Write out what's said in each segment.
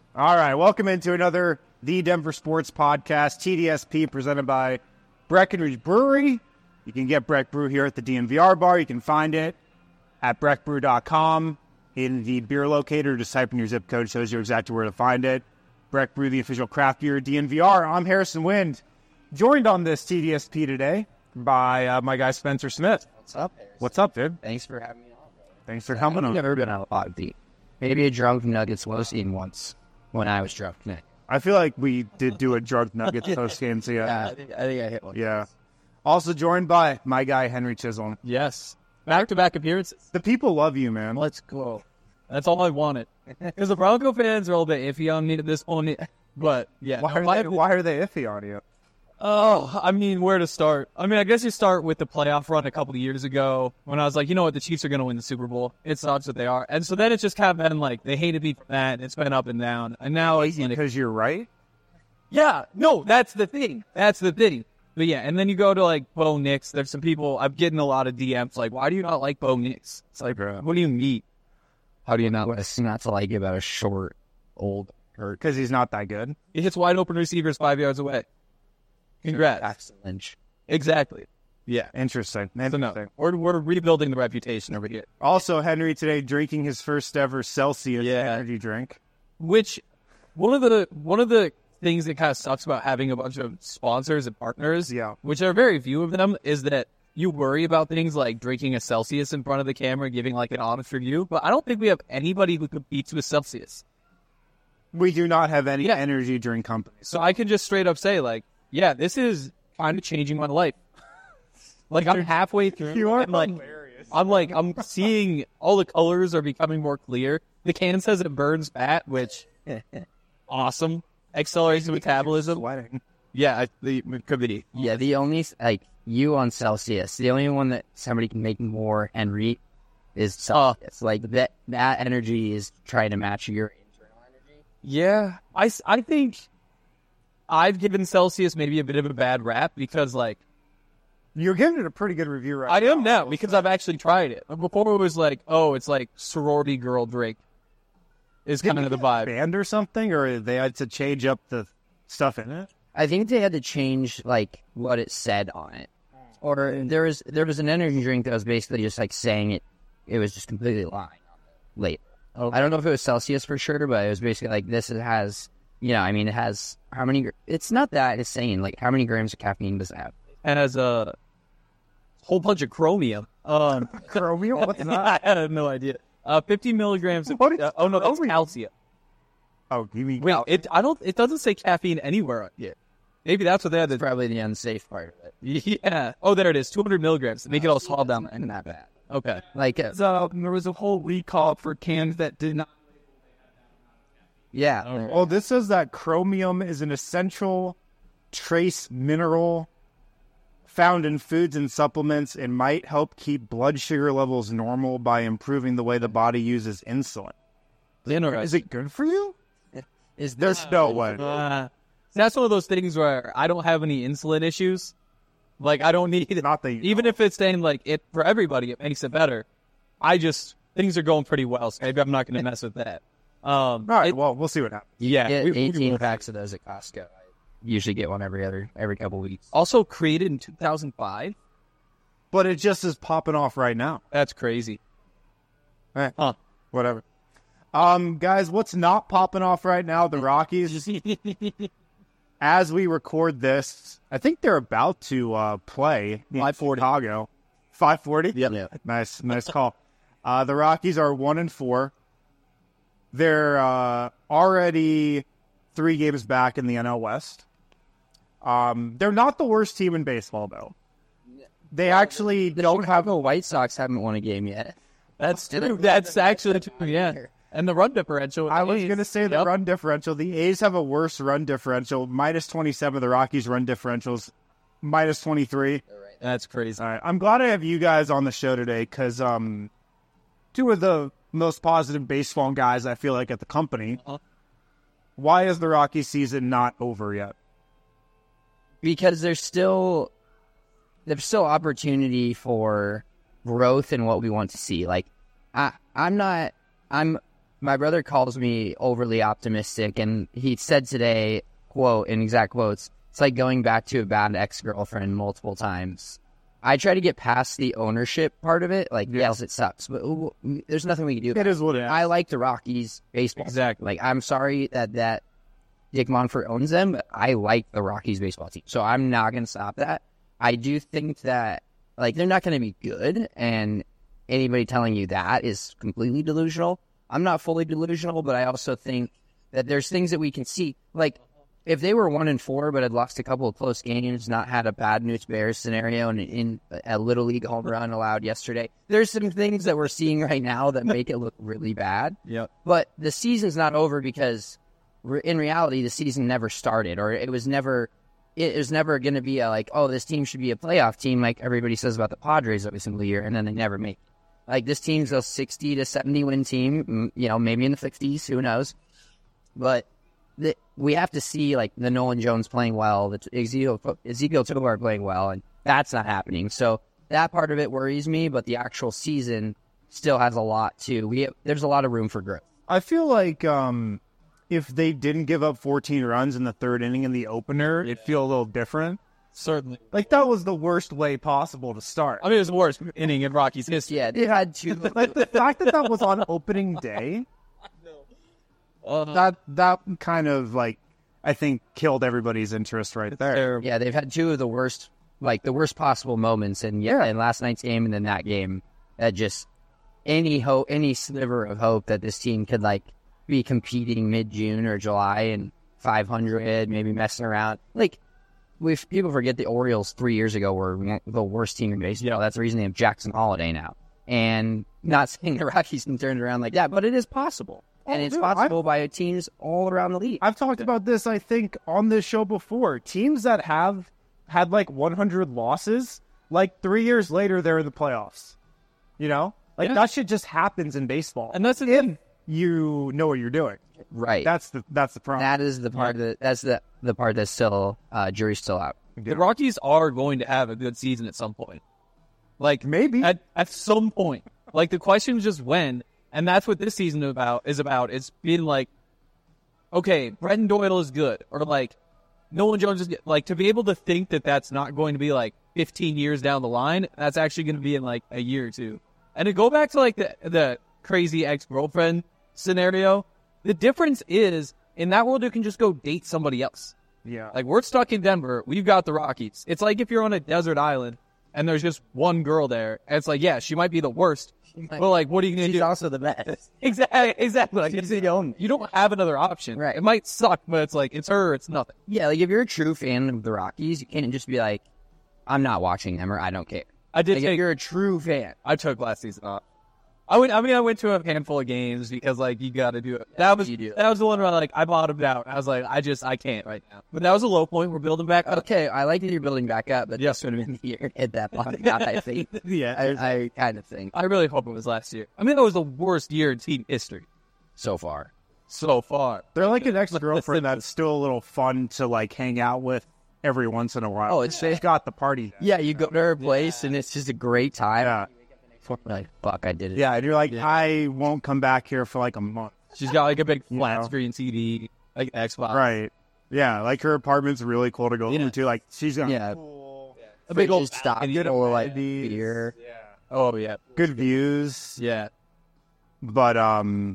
All right, welcome into another The Denver Sports Podcast, TDSP, presented by Breckenridge Brewery. You can get Breck Brew here at the DNVR bar. You can find it at breckbrew.com in the beer locator. Just type in your zip code, shows you exactly where to find it. Breck Brew, the official craft beer of DNVR. I'm Harrison Wind, joined on this TDSP today by my guy Spencer Smith. What's up, Harrison? What's up, dude? Thanks for having me on, bro. Thanks for coming on. I've never been on a pod beat. Maybe a drunk Nuggets low scene once when I was drunk. I feel like we did do a drunk Nuggets post game, so I think I hit one. Yeah. Also joined by my guy Henry Chisholm. Yes. Back-to-back appearances. The people love you, man. Let's go. That's all I wanted. Because the Bronco fans are a little bit iffy on me at this point. But, yeah. Why are they iffy on you? Oh, I mean, where to start? I mean, I guess you start with the playoff run a couple of years ago when I was like, you know what, the Chiefs are going to win the Super Bowl. It sucks that they are. And so then it's just kind of been like, they hated me from that, and it's been up and down. And now it's like, Because you're right? yeah, no, that's the thing. But yeah, and then you go to like Bo Nix. There's some people, I'm getting a lot of DMs like, why do you not like Bo Nix? It's like, bro, what do you mean? How do you not not to like about a short, old hurt? Because he's not that good. He hits wide open receivers 5 yards away. Congrats. Jackson Lynch. Exactly. Yeah. Interesting. So no, we're rebuilding the reputation over here. Also, Henry today drinking his first ever Celsius energy drink. Which one of the things that kind of sucks about having a bunch of sponsors and partners, which are very few of them, is that you worry about things like drinking a Celsius in front of the camera, giving like an honest review. But I don't think we have anybody who competes with Celsius. We do not have any energy drink companies. So I can just straight up say like, yeah, this is kind of changing my life. Like I'm halfway through. You are like, hilarious. I'm seeing all the colors are becoming more clear. The can says it burns fat, which awesome. Accelerates metabolism. Sweating. Yeah, it could be. Yeah, the only, like, you on Celsius, the only one that somebody can make more and read is Celsius. Like, that energy is trying to match your internal energy. Yeah, I think I've given Celsius maybe a bit of a bad rap because, like, you're giving it a pretty good review right now. I am now because I've actually tried it. Before it was like, oh, it's like sorority girl drink is kind of the vibe. Banned or something, or they had to change up the stuff in it? I think they had to change, like, what it said on it. Or there was an energy drink that was basically just, like, saying it was just completely lying on the label. Okay. I don't know if it was Celsius for sure, but it was basically like, this has, you know, I mean, it has how many, it's not that insane, like, how many grams of caffeine does it have? It has a whole bunch of chromium. Chromium? What's that? I have no idea. 50 milligrams of, oh no, that's calcium. Oh, you mean... Wait, it doesn't say caffeine anywhere yet. Maybe that's what they had. That's probably the unsafe part of it. Yeah. Oh, there it is. 200 milligrams. Make it all small down there. Isn't that bad? Okay. Like, so there was a whole recall for cans that did not. Yeah. Okay. Well, this says that chromium is an essential trace mineral found in foods and supplements and might help keep blood sugar levels normal by improving the way the body uses insulin. Is it good for you? There's no way. That's one of those things where I don't have any insulin issues. Like, I don't need it. Not that even if it's saying, like, it for everybody, it makes it better. Things are going pretty well, so maybe I'm not going to mess with that. All right, well, we'll see what happens. Yeah. Get 18 packs of those at Costco. I usually get one every couple weeks. Also created in 2005. But it just is popping off right now. That's crazy. Whatever. Guys, what's not popping off right now? The Rockies. As we record this, I think they're about to play in 540. Chicago. 540? Yep. Nice call. The Rockies are 1-4. They're already 3 games back in the NL West. They're not the worst team in baseball, though. They actually don't have... The White Sox haven't won a game yet. That's true. That's actually true, yeah. And the run differential. I was going to say the run differential. The A's have a worse run differential. Minus 27. The Rockies' run differential's minus 23. That's crazy. All right. I'm glad I have you guys on the show today because 2 of the most positive baseball guys I feel like at the company. Why is the Rockies season not over yet? Because there's still opportunity for growth in what we want to see. Like, I'm my brother calls me overly optimistic, and he said today, quote, in exact quotes, it's like going back to a bad ex-girlfriend multiple times. I try to get past the ownership part of it. Like, yes, it sucks, but there's nothing we can do about It is what it is. I like the Rockies baseball. Exactly. Like, I'm sorry that Dick Monfort owns them, but I like the Rockies baseball team. So I'm not going to stop that. I do think that, like, they're not going to be good, and anybody telling you that is completely delusional. I'm not fully delusional, but I also think that there's things that we can see. Like, if they were 1-4 but had lost a couple of close games, not had a bad News Bears scenario, and in a Little League home run allowed yesterday, there's some things that we're seeing right now that make it look really bad. Yep. But the season's not over because, in reality, the season never started, or it was never going to be this team should be a playoff team like everybody says about the Padres every single year, and then they never make it. Like, this team's a 60 to 70 win team, maybe in the 50s, who knows? But we have to see, like, the Nolan Jones playing well, the Ezekiel Tovar playing well, and that's not happening. So that part of it worries me, but the actual season still has a lot there's a lot of room for growth. I feel like if they didn't give up 14 runs in the third inning in the opener, it'd feel a little different. Certainly. Like, that was the worst way possible to start. I mean, it was the worst inning in Rockies history. Yeah, they had two. Like, the fact that was on opening day, that kind of, like, I think killed everybody's interest right there. Terrible. Yeah, they've had two of the worst possible moments, and in last night's game and then that game, that just any sliver of hope that this team could, like, be competing mid-June or July and 500, maybe messing around. Like, people forget the Orioles 3 years ago were the worst team in baseball. Yeah. That's the reason they have Jackson Holiday now. And not saying the Rockies can turn it around like that, but it is possible. And it's possible by teams all around the league. I've talked about this, I think, on this show before. Teams that have had, like, 100 losses, like, 3 years later, they're in the playoffs. Like, that shit just happens in baseball. And that's the thing. You know what you're doing. Right. That's the problem. That is the part that's the part that's still jury's still out. The Rockies are going to have a good season at some point. Like, maybe at some point. Like, the question is just when, and that's what this season is about. It's being like, okay, Brenton Doyle is good, or like Nolan Jones is good. Like, to be able to think that that's not going to be like 15 years down the line, that's actually going to be in like a year or two. And to go back to like the crazy ex-girlfriend scenario, the difference is in that world you can just go date somebody else. Yeah. Like, we're stuck in Denver, we've got the Rockies. It's like if you're on a desert island and there's just one girl there, and it's like, yeah, she might be the worst, but like, what are you gonna do? She's also the best. Exactly. Like, She's the only. you don't have another option. Right. It might suck, but it's like, it's her, it's nothing. Yeah, like, if you're a true fan of the Rockies, you can't just be like, I'm not watching them, or I don't care. I did Like, take, if you're a true fan. I took last season off. I went to a handful of games because, like, you got to do it. That was the one where, like, I bottomed out. I was like, I can't right now. But that was a low point. We're building back up. Okay, I like that you're building back up, but this would have been the year hit that bottom out, I think. Yeah. I kind of think. I really hope it was last year. I mean, that was the worst year in team history So far. so far. They're like an ex-girlfriend that's still a little fun to, like, hang out with every once in a while. Oh, it's got the party. Yeah, you go to her place, and it's just a great time. Yeah. Like, fuck, I did it. Yeah, and you're like, I won't come back here for like a month. She's got, like, a big flat know? screen TV, like Xbox. Right. Yeah, like her apartment's really cool to go to. Like, she's got Yeah. cool, A big old stock, balcony. full of, like, amenities. beer. Oh, yeah. good views. Yeah. But, Once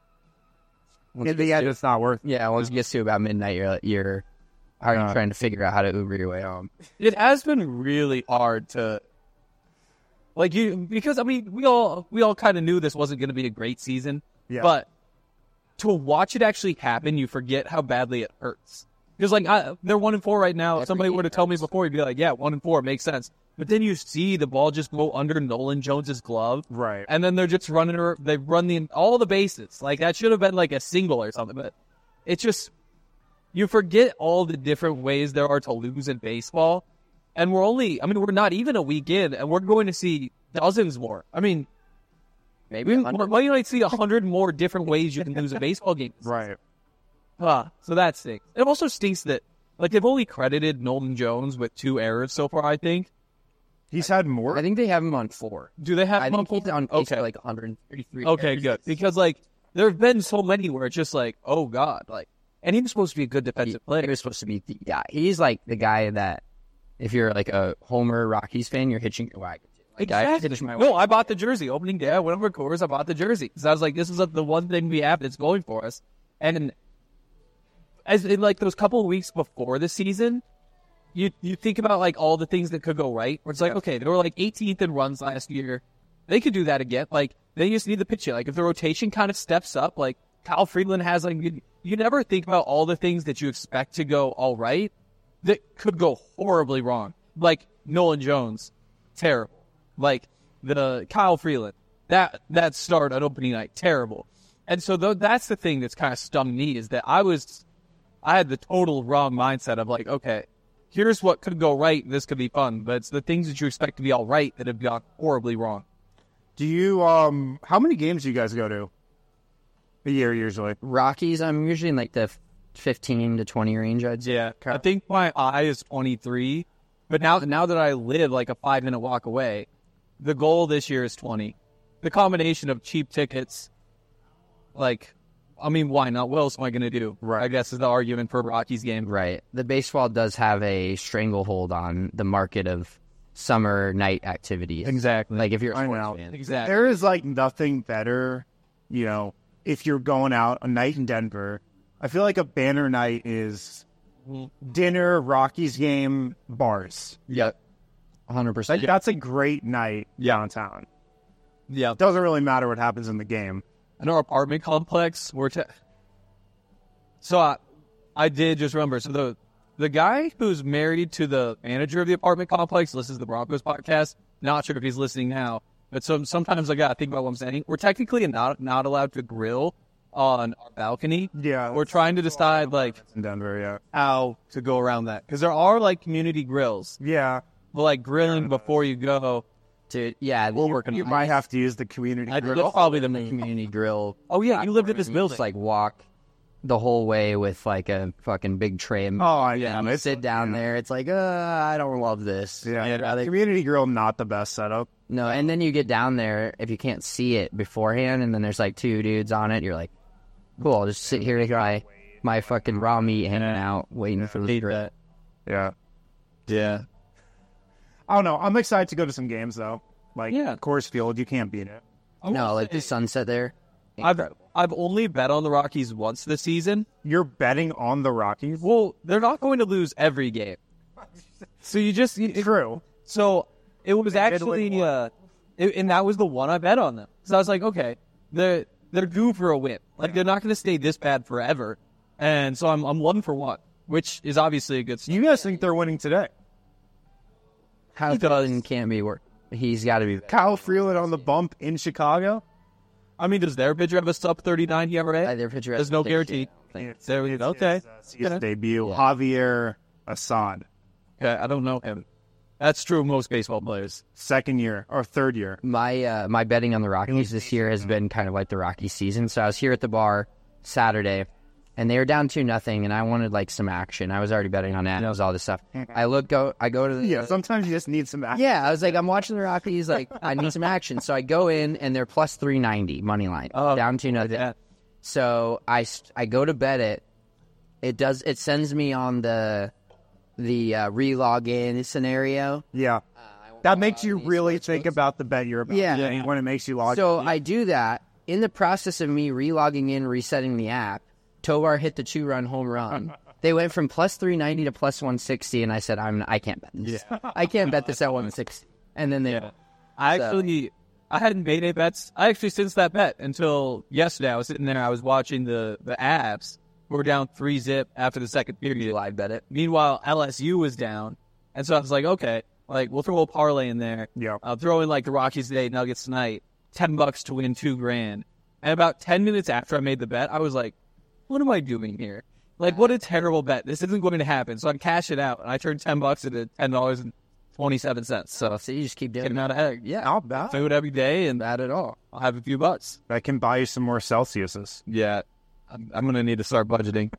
yeah, it gets to- it's not worth it. Yeah, once it gets to about midnight, you're already trying to figure out how to Uber your way home. It has been really hard to, like, because I mean, we all kind of knew this wasn't going to be a great season, but to watch it actually happen, you forget how badly it hurts. Because, like, they're 1-4 right now. If somebody would have told me before, you'd be like, yeah, 1-4 makes sense. But then you see the ball just go under Nolan Jones's glove, Right. and then they're just running. They run all the bases. Like, that should have been like a single or something. But it's just, you forget all the different ways there are to lose in baseball. And we're not even a week in, and we're going to see dozens more. I mean, Maybe you might see 100 more different ways you can lose a baseball game. Right. So that stinks. It also stinks that, like, they've only credited Nolan Jones with 2 errors so far, I think. He's had more. I think they have him on 4. Do they have I him on think he's on pace for like 133. Okay, good. Because, like, there have been so many where it's just like, oh God, like, and he was supposed to be a good defensive player. He was supposed to be the guy. He's like the guy that if you're like a Homer Rockies fan, you're hitching your wagon. Like, Exactly. No, I bought the jersey opening day. I went over to Coors. I bought the jersey because I was like, this is the one thing we have that's going for us. And as in like those couple of weeks before the season, you think about like all the things that could go right. Where it's like, okay, they were like 18th in runs last year. They could do that again. Like they just need the pitch. Like if the rotation kind of steps up, like Kyle Freeland has, like you never think about all the things that you expect to go all right that could go horribly wrong. Like Nolan Jones, terrible. Like the Kyle Freeland, that start on opening night, terrible. And so that's the thing that's kind of stung me is that I had the total wrong mindset of like, okay, here's what could go right. This could be fun, but it's the things that you expect to be all right that have gone horribly wrong. Do you how many games do you guys go to a year usually? Rockies, I'm usually in like the 15 to 20 range, I'd say. Yeah, I think my eye is 23, but now that I live like a 5-minute walk away, the goal this year is 20. The combination of cheap tickets, like, I mean, why not? What else am I going to do? Right. I guess is the argument for a Rockies game. Right. The baseball does have a stranglehold on the market of summer night activities. Exactly. Like if you're a I sports know. fan. Exactly. There is like nothing better, you know, if you're going out a night in Denver. I feel like a banner night is dinner, Rockies game, bars. Yep. 100%. Like, that's a great night downtown. Yeah. It doesn't really matter what happens in the game. In our apartment complex, so I did just remember. So the guy who's married to the manager of the apartment complex listens to the Broncos podcast. Not sure if he's listening now, but sometimes I gotta think about what I'm saying. We're technically not allowed to grill on our balcony. Yeah, we're trying to decide like in Denver, yeah, how to go around that because there are like community grills. Yeah, but like grilling before you go. Dude, yeah, we're working. You might have to use the community grill. That's probably the community grill. Oh yeah, you lived in this building. Just like walk the whole way with like a fucking big tray. Oh yeah, and sit down there. It's like, I don't love this. Yeah, community grill not the best setup. No, and then you get down there if you can't see it beforehand, and then there's like two dudes on it. You're like, cool, I'll just sit here and my fucking raw meat hanging out, waiting for the grill. Yeah. Yeah. I don't know. I'm excited to go to some games though. Like Coors Field, you can't beat it. No, like the sunset there. I've only bet on the Rockies once this season. You're betting on the Rockies? Well, they're not going to lose every game. So you just true. So it was actually and that was the one I bet on them. So I was like, okay, they're due for a win. Like they're not going to stay this bad forever. And so I'm 1-for-1, which is obviously a good start. You guys think they're winning today? How can't be work. He's got to be. Kyle Freeland on the bump in Chicago. I mean, does their pitcher have a sub 39 ERA? Their pitcher has no guarantee. There we go. Okay. His debut, Javier Assad. Okay, I don't know him. That's true of most baseball players. Second year or third year. My betting on the Rockies this year has been kind of like the Rockies season. So I was here at the bar Saturday, and they were down 2-0, and I wanted like some action. I was already betting on that. It was all this stuff. I go to the sometimes you just need some action. Yeah, I was like, I'm watching the Rockies. Like, I need some action. So I go in, and they're plus 390 money line, down 2-0. Yeah. So I go to bet it. It sends me on the re-log in scenario. Yeah. That makes you really think about the bet you're about. Yeah. When it makes you log in. So I do that. In the process of me re-logging in, resetting the app, Tovar hit the 2-run home run. They went from plus 390 to plus 160, and I said, I can't bet this. Yeah. I can't bet this at 160. And then they I hadn't made any bets. I actually since that bet until yesterday. I was sitting there. I was watching the Avs. We're down 3-0 after the second period. live bet it. Meanwhile, LSU was down, and so I was like, okay, like we'll throw a parlay in there. Yeah. I'll throw in like the Rockies today, Nuggets tonight, $10 to win $2,000. And about 10 minutes after I made the bet, I was like, what am I doing here? Like, what a terrible bet. This isn't going to happen. So I cash it out, and I turned $10 into $10.27. So you just keep doing getting out ahead. Yeah, not bad. Food every day, and bad at all. I'll have a few bucks. I can buy you some more Celsiuses. Yeah, I'm going to need to start budgeting.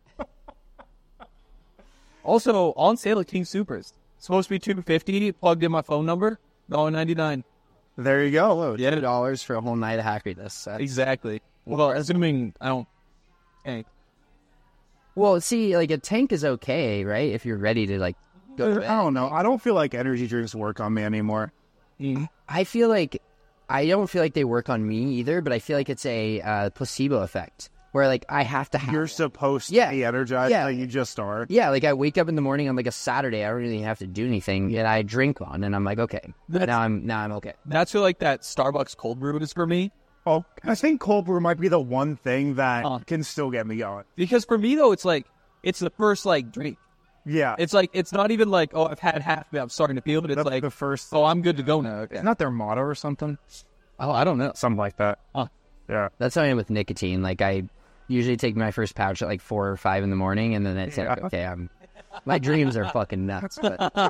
Also, on sale at King Supers. Supposed to be $2.50. Plugged in my phone number. $1.99. There you go. $2 for a whole night of happiness. Exactly. Well, assuming I don't. Hey. Well, see, like a tank is okay, right? If you're ready to like go. To bed. I don't know. I don't feel like energy drinks work on me anymore. I feel like I don't feel like they work on me either, but I feel like it's a placebo effect where like I have to have. You're supposed to be energized. Yeah. Like you just are. Yeah, like I wake up in the morning on like a Saturday, I don't really have to do anything, and I drink one, and I'm like, okay, now I'm okay. That's where like that Starbucks cold brew is for me. Oh, I think cold brew might be the one thing that can still get me going. Because for me though, it's like it's the first like drink. Yeah, It's like it's not even like, oh, I've had half of it, I'm starting to feel it. It's that's like the first. oh, I'm good to go now. Okay. Isn't that their motto or something? Oh, I don't know. Something like that. Yeah. That's how I am with nicotine. Like I usually take my first pouch at like 4 or 5 in the morning, and then it's like, okay, my dreams are fucking nuts.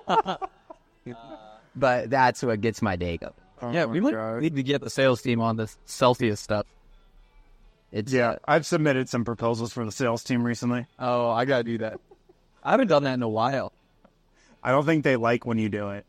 But that's what gets my day going. Yeah, we might need to get the sales team on this Celsius stuff. I've submitted some proposals for the sales team recently. Oh, I gotta do that. I haven't done that in a while. I don't think they like when you do it.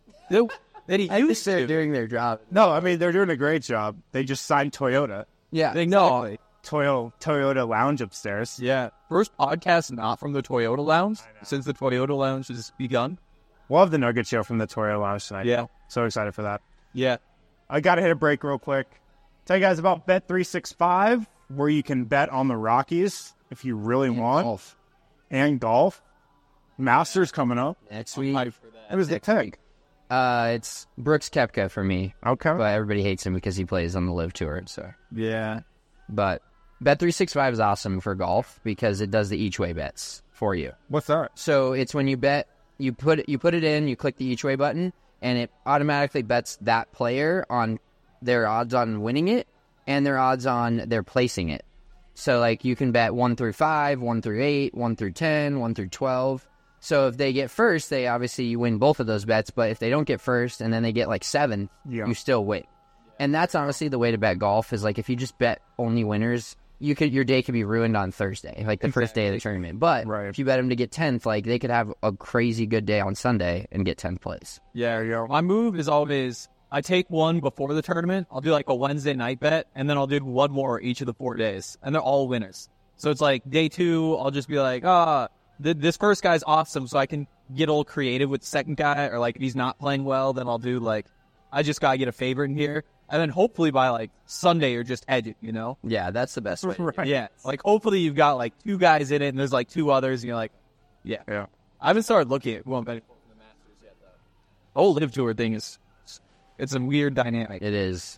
I used They're to. doing their job. No, I mean, they're doing a great job. They just signed Toyota. Yeah. No. Toyota Lounge upstairs. Yeah. First podcast not from the Toyota Lounge since the Toyota Lounge has begun. We'll have the Nugget Show from the Toyota Lounge tonight. Yeah. So excited for that. Yeah. I got to hit a break real quick. Tell you guys about Bet365, where you can bet on the Rockies if you really want. Golf. And golf. Masters coming up. Next week. It was the pick. It's Brooks Koepka for me. Okay. But everybody hates him because he plays on the Live Tour. So, Yeah. but Bet365 is awesome for golf because it does the each way bets for you. What's that? So it's when you bet, you put it in, you click the each way button, and it automatically bets that player on their odds on winning it and their odds on their placing it. So like you can bet 1 through 5, 1 through 8, 1 through 10, 1 through 12. So if they get first, they obviously win both of those bets. But if they don't get first and then they get like 7th, you still win. And that's honestly the way to bet golf is like if you just bet only winners, your day could be ruined on Thursday, like the first day of the tournament. But if you bet them to get 10th, like they could have a crazy good day on Sunday and get 10th place. Yeah. There you go. My move is always I take one before the tournament. I'll do like a Wednesday night bet, and then I'll do one more each of the 4 days, and they're all winners. So it's like day 2, I'll just be like, this first guy's awesome, so I can get all creative with the second guy, or like if he's not playing well, then I'll do like, I just gotta get a favorite in here, and then hopefully by like Sunday you're just edged, you know? Yeah, that's the best way. Right. Yeah, like hopefully you've got like 2 guys in it, and there's like 2 others, and you're like, yeah. I haven't started looking at who I'm betting for the Masters yet, though. The whole Live Tour thing it's a weird dynamic. It is.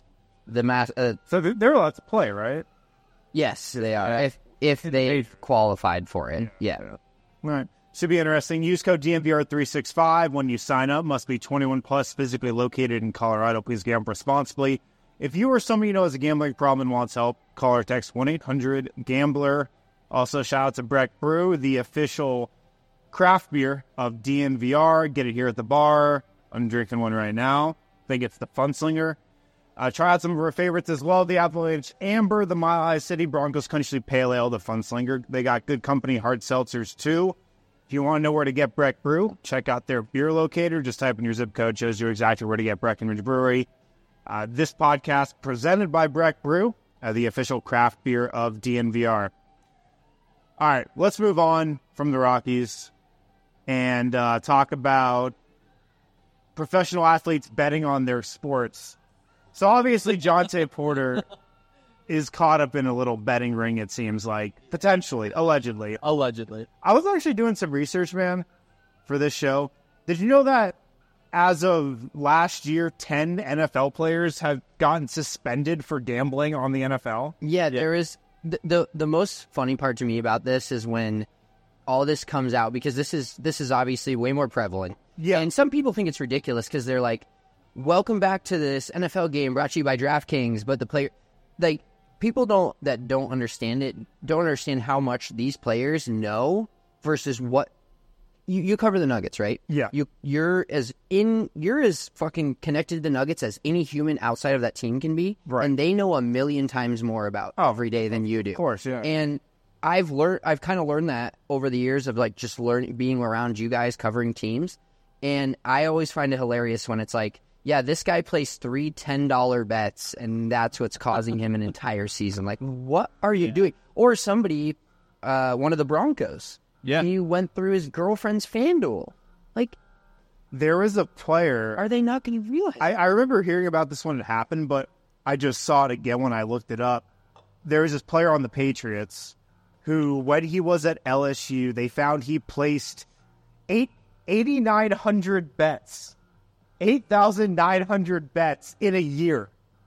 So they're allowed to play, right? Yes, they are. If they've qualified for it, yeah. All right. Should be interesting. Use code DNVR365 when you sign up. Must be 21 plus, physically located in Colorado. Please gamble responsibly. If you or someone you know has a gambling problem and wants help, call or text 1-800-GAMBLER. Also, shout out to Breck Brew, the official craft beer of DNVR. Get it here at the bar. I'm drinking one right now. I think it's the Funslinger. Try out some of our favorites as well. The Avalanche Amber, the Mile High City Broncos Country Pale Ale, the Funslinger. They got good company hard seltzers too. If you want to know where to get Breck Brew, check out their beer locator. Just type in your zip code, shows you exactly where to get Breckenridge Brewery. This podcast presented by Breck Brew, the official craft beer of DNVR. All right, let's move on from the Rockies and talk about professional athletes betting on their sports. So obviously Jonte Porter is caught up in a little betting ring, it seems like. Potentially. Allegedly. I was actually doing some research, man, for this show. Did you know that as of last year, 10 NFL players have gotten suspended for gambling on the NFL? Yeah, there is. The most funny part to me about this is when all this comes out, because this is obviously way more prevalent. Yeah. And some people think it's ridiculous because they're like, welcome back to this NFL game brought to you by DraftKings, but the player, like, people don't understand how much these players know versus what you cover the Nuggets, right? Yeah. You're as fucking connected to the Nuggets as any human outside of that team can be. Right. And they know a million times more about every day than you do. Of course, yeah. And I've kind of learned that over the years of like just being around you guys covering teams. And I always find it hilarious when it's like, yeah, this guy placed 3 $10 bets, and that's what's causing him an entire season. Like, what are you doing? Or somebody, one of the Broncos, he went through his girlfriend's FanDuel. Like, there was a player. Are they not going to realize? I remember hearing about this when it happened, but I just saw it again when I looked it up. There was this player on the Patriots who, when he was at LSU, they found he placed 8,900 bets. 8,900 bets in a year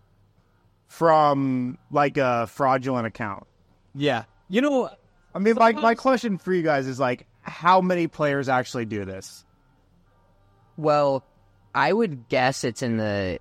from like a fraudulent account. Yeah. You know, I mean, my question for you guys is like, how many players actually do this? Well, I would guess it's in the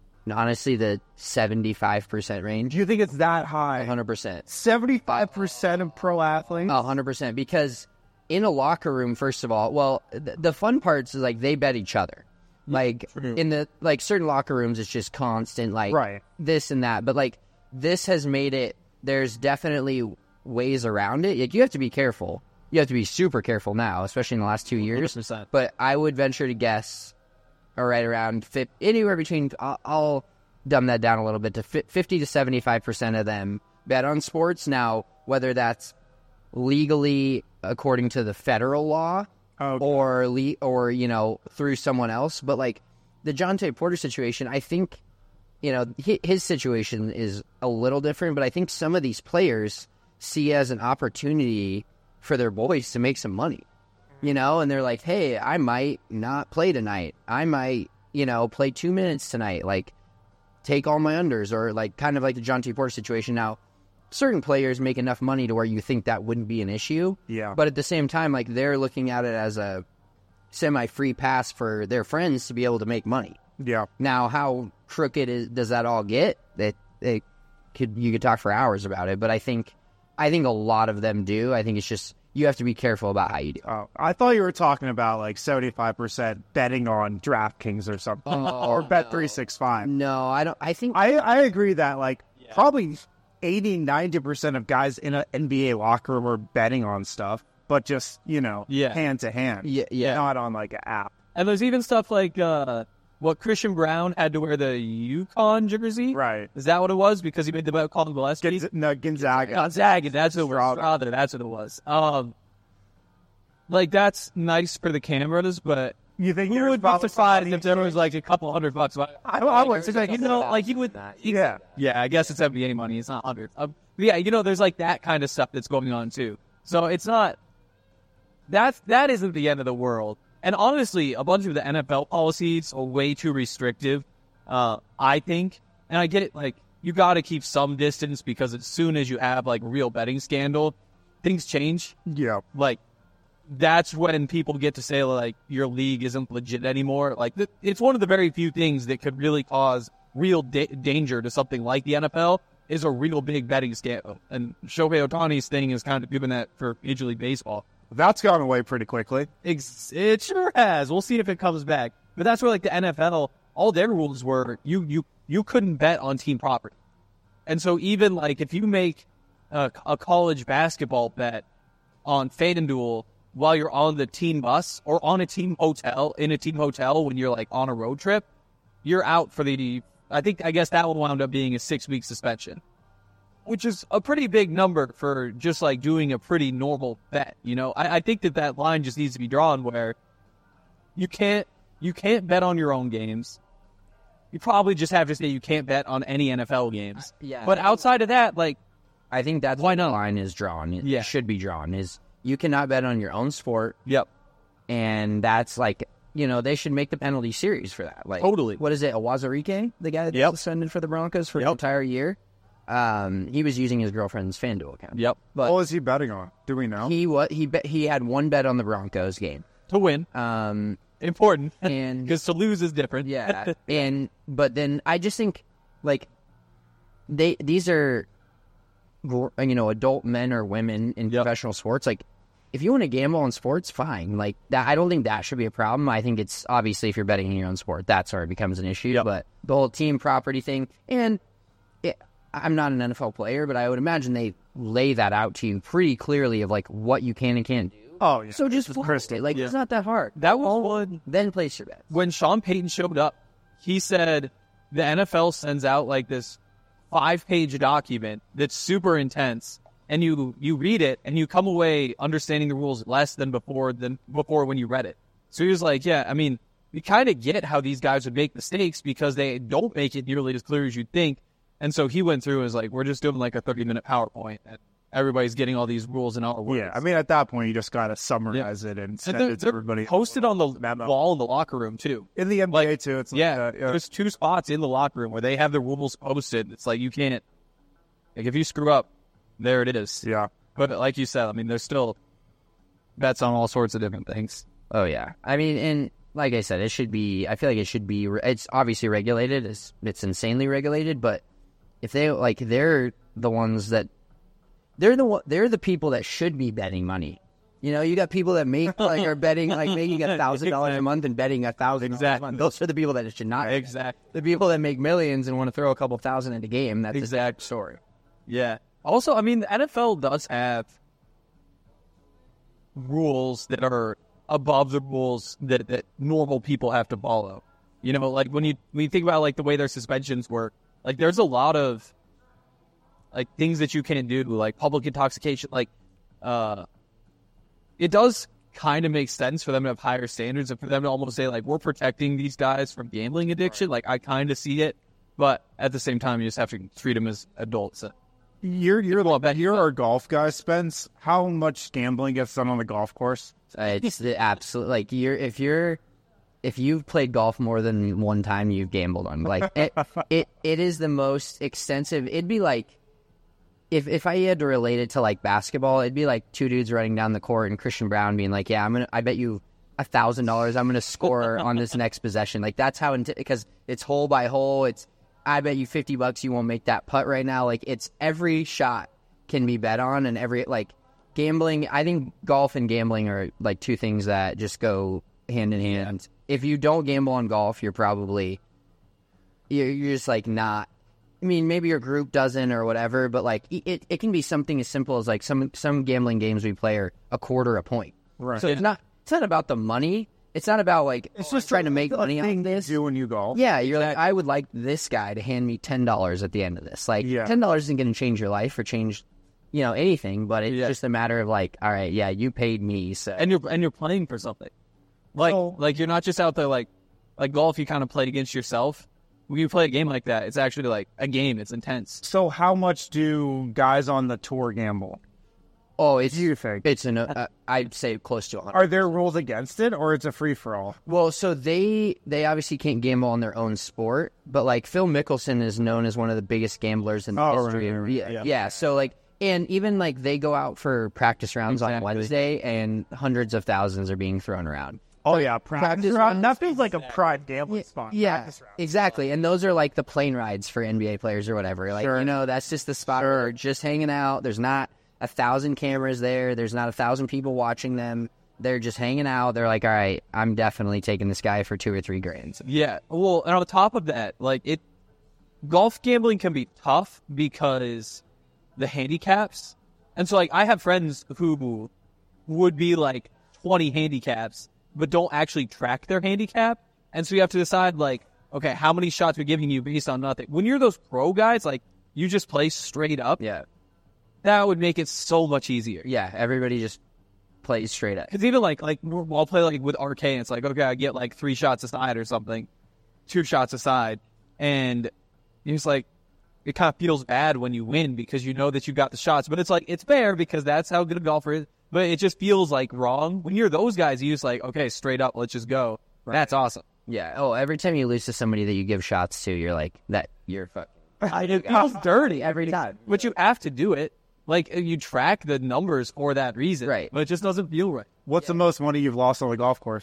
75% range. Do you think it's that high? 100%. 75% of pro athletes? 100%. Because in a locker room, first of all, well, the fun parts is like they bet each other. Like in the certain locker rooms, it's just constant this and that. But like this has made it. There's definitely ways around it. Like, you have to be careful. You have to be super careful now, especially in the last 2 years. 100%. But I would venture to guess, right around anywhere between. I'll dumb that down a little bit to 50 to 75% of them bet on sports. Now, whether that's legally according to the federal law. Okay. Or through someone else, but like the Jonte Porter situation, I think his situation is a little different, but I think some of these players see as an opportunity for their boys to make some money, and they're like, hey, I might not play tonight, I might play 2 minutes tonight, like take all my unders, or like kind of like the Jonte Porter situation. Now, certain players make enough money to where you think that wouldn't be an issue. Yeah. But at the same time, like, they're looking at it as a semi-free pass for their friends to be able to make money. Yeah. Now, how crooked does that all get? You could talk for hours about it, but I think a lot of them do. I think it's just you have to be careful about how you do. Oh, I thought you were talking about like 75% betting on DraftKings or something, or Bet365. No, I don't. I think I agree that like probably 80-90% of guys in an NBA locker room are betting on stuff, but just, hand to hand. Yeah. Not on like an app. And there's even stuff like what Christian Brown had to wear the UConn jersey. Right. Is that what it was? Because he made the bet called Gillespie? Gonzaga. Gonzaga. That's what it was. Rather, that's what it was. Like, that's nice for the cameras, but you think who would be surprised if there was like a couple $100? I would say, like, like you would. Yeah. Yeah, I guess it's NBA money. It's not 100. Yeah, there's like that kind of stuff that's going on too. So it's not. That isn't the end of the world. And honestly, a bunch of the NFL policies are way too restrictive, I think. And I get it, like, you got to keep some distance because as soon as you have, like, real betting scandal, things change. Yeah. Like, that's when people get to say, like, your league isn't legit anymore. Like, it's one of the very few things that could really cause real danger to something like the NFL is a real big betting scandal. And Shohei Ohtani's thing is kind of doing that for Major League Baseball. That's gone away pretty quickly. It sure has. We'll see if it comes back. But that's where, like, the NFL, all their rules were you couldn't bet on team property. And so even, like, if you make a college basketball bet on FanDuel while you're on the team bus or on a team hotel, when you're, like, on a road trip, you're out for I guess that will wound up being a 6-week suspension, which is a pretty big number for just, like, doing a pretty normal bet, I think that line just needs to be drawn where you can't bet on your own games. You probably just have to say you can't bet on any NFL games. Yeah. But outside of that, like, I think that's why the line is drawn. It should be drawn, is you cannot bet on your own sport. Yep. And that's like, they should make the penalty series for that. Like, totally. What is it, Awazarike, the guy that suspended for the Broncos for the entire year? He was using his girlfriend's FanDuel account. Yep. But what was he betting on? Do we know? He had one bet on the Broncos game. To win. Important. And because to lose is different. Yeah. But then I just think, like, these are, adult men or women in professional sports. Like, if you want to gamble on sports, fine. Like, that, I don't think that should be a problem. I think it's obviously if you're betting in your own sport, that's where it becomes an issue. Yep. But the whole team property thing, and I'm not an NFL player, but I would imagine they lay that out to you pretty clearly of, like, what you can and can't do. Oh, yeah. So just follow it. Like, it's not that hard. That was one. Then place your bets. When Sean Payton showed up, he said the NFL sends out like this 5-page document that's super intense, and you read it and you come away understanding the rules less than before when you read it. So he was like, yeah, I mean, we kind of get how these guys would make mistakes because they don't make it nearly as clear as you'd think. And so he went through and was like, we're just doing like a 30-minute PowerPoint, and everybody's getting all these rules in our words. Yeah, I mean, at that point, you just got to summarize it and send it to everybody. Posted on the wall in the locker room, too. In the NBA, too. It's there's 2 spots in the locker room where they have the rules posted. It's like, you can't, like, if you screw up, there it is. Yeah. But like you said, I mean, there's still bets on all sorts of different things. Oh, yeah. I mean, and like I said, I feel like it should be, it's obviously regulated. It's insanely regulated, but if they, like, they're the ones that, they're the people that should be betting money. You know, you got people that are betting, like, making $1,000 a month and betting $1,000 a month. Those are the people that should not. Exactly. The people that make millions and want to throw a couple thousand in a game, that's exact story. Yeah. Also, I mean, the NFL does have rules that are above the rules that normal people have to follow. You know, like when you think about like the way their suspensions work, like there's a lot of like things that you can't do, like public intoxication. Like, it does kind of make sense for them to have higher standards and for them to almost say like, we're protecting these guys from gambling addiction. Right. Like I kind of see it, but at the same time, you just have to treat them as adults. You're our golf guy, Spence. How much gambling gets done on the golf course? It's the absolute, like, if you've played golf more than one time, you've gambled on. Like, it is the most extensive. It'd be like, if I had to relate it to like basketball, it'd be like 2 dudes running down the court and Christian Brown being like, yeah, I bet you $1,000 I'm gonna score on this next possession. Like, that's how, because it's hole by hole. I bet you $50 you won't make that putt right now. Like, it's every shot can be bet on, and every, like, gambling. I think golf and gambling are like 2 things that just go hand in hand. If you don't gamble on golf, you're just like not. I mean, maybe your group doesn't or whatever, but like it can be something as simple as like some gambling games we play are a quarter a point. Right. So it's not about the money. It's not about like it's just trying to make money on this. Do when you golf. Yeah, you're like, I would like this guy to hand me $10 at the end of this. Like, $10 isn't going to change your life or change, anything. But it's just a matter of like, all right, yeah, you paid me, so and you're playing for something. Like you're not just out there like golf. You kind of play against yourself. When you play a game like that, it's actually like a game. It's intense. So how much do guys on the tour gamble? Oh, do you think? It's I'd say close to 100. Are there rules against it, or it's a free-for-all? Well, so they obviously can't gamble on their own sport, but like Phil Mickelson is known as one of the biggest gamblers in the history. Right. Yeah. So like, and even like they go out for practice rounds on Wednesday, and hundreds of thousands are being thrown around. Oh yeah, practice round. That feels like a prime gambling spot. Yeah, exactly. And those are like the plane rides for NBA players or whatever. Like, that's just the spot where they're just hanging out. There's not 1,000 cameras there. There's not 1,000 people watching them. They're just hanging out. They're like, all right, I'm definitely taking this guy for $2 or $3 grand. Yeah. Well, and on top of that, like golf gambling can be tough because the handicaps. And so like I have friends who would be like 20 handicaps, but don't actually track their handicap. And so you have to decide like, okay, how many shots we're giving you based on nothing. When you're those pro guys, like you just play straight up. Yeah. That would make it so much easier. Yeah, everybody just plays straight up. Because even like I'll play like with RK, and it's like, okay, I get like 3 shots aside or something, 2 shots aside, and it's like it kind of feels bad when you win because you know that you got the shots, but it's like it's fair because that's how good a golfer is. But it just feels like wrong when you're those guys. You just like, okay, straight up, let's just go. Right. That's awesome. Yeah. Oh, every time you lose to somebody that you give shots to, you're like you're fucking. It feels dirty every time, but you have to do it. Like, you track the numbers for that reason. Right. But it just doesn't feel right. What's the most money you've lost on the golf course?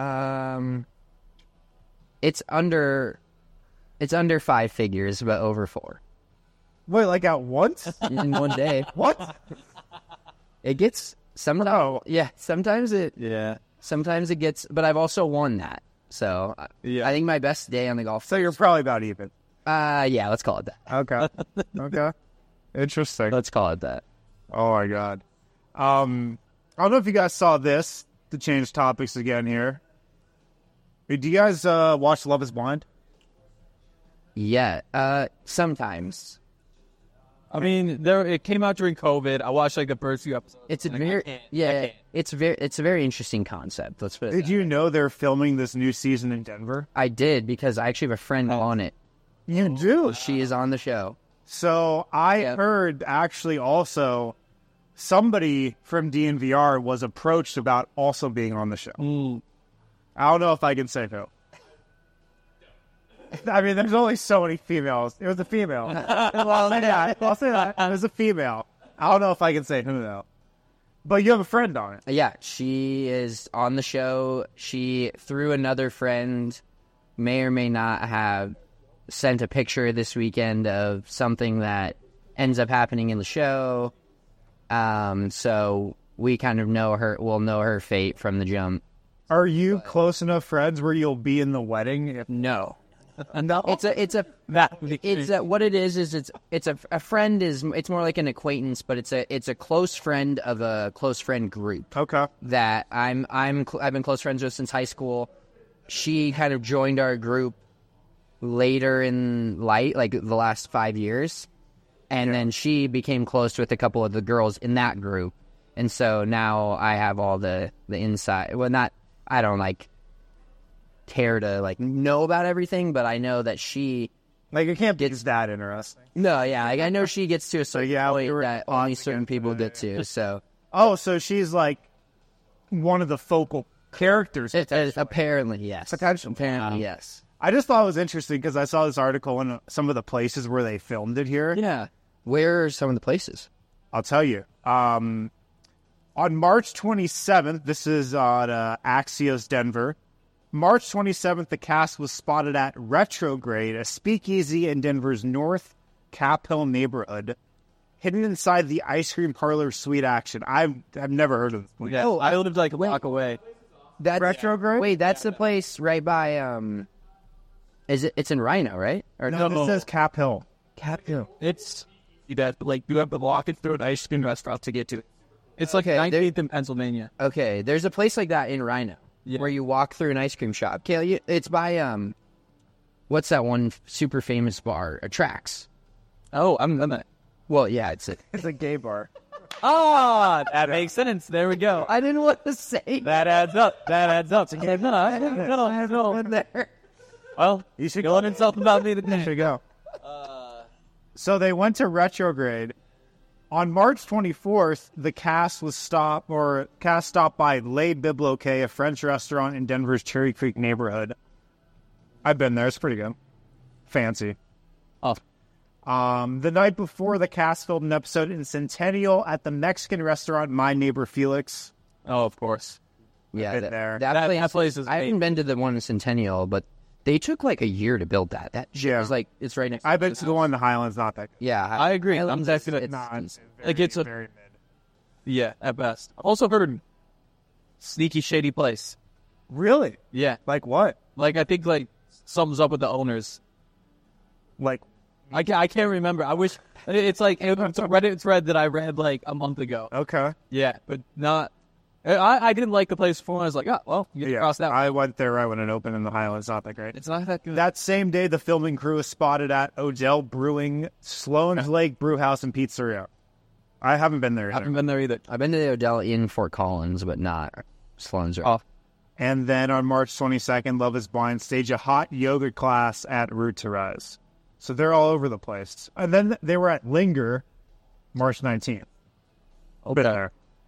It's under 5 figures, but over 4. Wait, like at once? In one day. What? It gets sometimes. Oh. Yeah, sometimes it gets, but I've also won that. So I think my best day on the golf. So you're probably about even. Yeah, let's call it that. Okay. Interesting. Let's call it that. Oh my God. I don't know if you guys saw this, to change topics again here. Do you guys watch Love is Blind? Yeah, sometimes. I mean, it came out during COVID. I watched like the first few episodes. It's a it's a very interesting concept. Let's put it. Did you know they're filming this new season in Denver? I did, because I actually have a friend on it. You do? She is on the show. So I heard actually also somebody from DNVR was approached about also being on the show. I don't know if I can say who. I mean, there's only so many females. It was a female. I'll say that. It was a female. I don't know if I can say who, though. But you have a friend on it. Yeah, she is on the show. She, through another friend, may or may not have sent a picture this weekend of something that ends up happening in the show. So we kind of we'll know her fate from the jump. Are you close enough friends where you'll be in the wedding? No. No. What it is it's a friend it's more like an acquaintance, but it's a close friend of a close friend group. Okay. That I've been close friends with since high school. She kind of joined our group later in life, like the last 5 years, and then she became close with a couple of the girls in that group, and so now I have all the inside. Well, I don't care to know about everything, but I know that she it can't be that interesting. No, yeah, I know she gets to a certain point that only certain people get to. So so she's one of the focal characters. Apparently, yes. Apparently, yes. I just thought it was interesting because I saw this article in some of the places where they filmed it here. Yeah, where are some of the places? I'll tell you. On March 27th, this is on Axios Denver. March 27th, the cast was spotted at Retrograde, a speakeasy in Denver's North Cap Hill neighborhood, hidden inside the ice cream parlor Sweet Action. I've never heard of this place. Yeah, I lived a block away. That's Retrograde? Wait, that's the place right by it's in Rhino, right? Or No, this says Cap Hill. Cap Hill. It's you have to walk it through an ice cream restaurant to get to it. It's like 19th in Pennsylvania. Okay, there's a place like that in Rhino where you walk through an ice cream shop. Kale, it's by what's that one super famous bar? Trax. Oh, I'm not. Well, yeah, it's a gay bar. That makes sense. There we go. I didn't want to say that. Adds up. No. There. Well, you should go on and something about me today. You should go. So they went to Retrograde. On March 24th, the cast stopped by Le Biblioquet, a French restaurant in Denver's Cherry Creek neighborhood. I've been there. It's pretty good. Fancy. Oh. The night before, the cast filmed an episode in Centennial at the Mexican restaurant My Neighbor Felix. Oh, of course. Yeah, that place is. I haven't been to the one in Centennial, but they took a year to build that. That shit was it's right next. I bet the one in the Highlands not that good. Yeah, I agree. I'm definitely it's very mid. Yeah, at best. I've also heard sneaky shady place. Really? Yeah. Like what? I think something's up with the owners. I can't remember. I wish it's a Reddit thread that I read a month ago. Okay. Yeah, but not. I didn't like the place before. I was like, oh, well, you get across that one. I went there right when it opened in the Highlands. Not that great. It's not that good. That same day, the filming crew was spotted at Odell Brewing, Sloan's Lake Brewhouse and Pizzeria. I haven't been there either. I haven't been there either. I've been to the Odell in Fort Collins, but not Sloan's. And then on March 22nd, Love is Blind staged a hot yoga class at Route to Rise. So they're all over the place. And then they were at Linger, March 19th. Okay. There.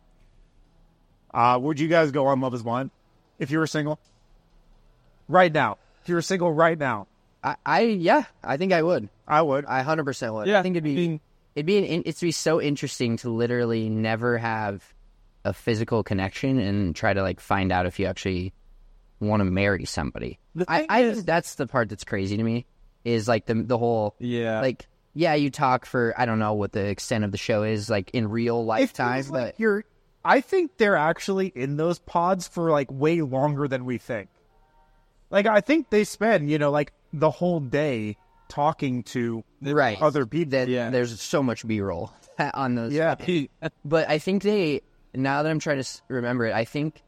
Would you guys go on Love is Blind if you were single? Right now. If you were single right now. I think I would. I would. I 100% would. Yeah, I think it'd be so interesting to literally never have a physical connection and try to find out if you actually want to marry somebody. I think that's the part that's crazy to me is the whole you talk for I don't know what the extent of the show is in real lifetime, but I think they're actually in those pods for way longer than we think. I think they spend the whole day talking to other people. There's so much B-roll on those. Yeah. But I think now that I'm trying to remember it, I think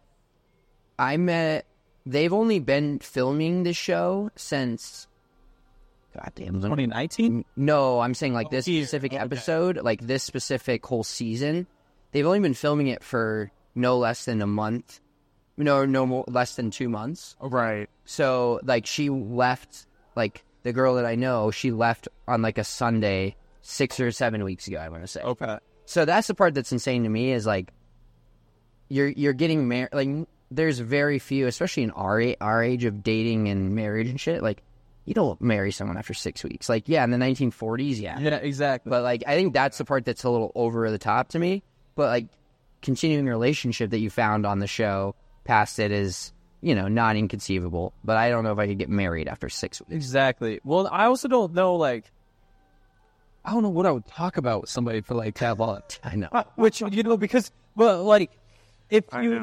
they've only been filming the show since goddamn 2019. No, I'm saying like this specific episode, like this specific whole season. They've only been filming it for no less than a month. No more, less than 2 months. Right. So like she left, like the girl that I know, she left on like a Sunday 6 or 7 weeks ago, I want to say. Okay. So that's the part that's insane to me is like you're getting married. Like there's very few, especially in our age of dating and marriage and shit. Like you don't marry someone after 6 weeks. Like yeah, in the 1940s, yeah. Yeah, exactly. But like I think that's the part that's a little over the top to me. But like continuing a relationship that you found on the show past it is, you know, not inconceivable. But I don't know if I could get married after 6 weeks. Exactly. Well, I also don't know, like, I don't know what I would talk about with somebody for like that long. I know. Which, you know, because, well, like, if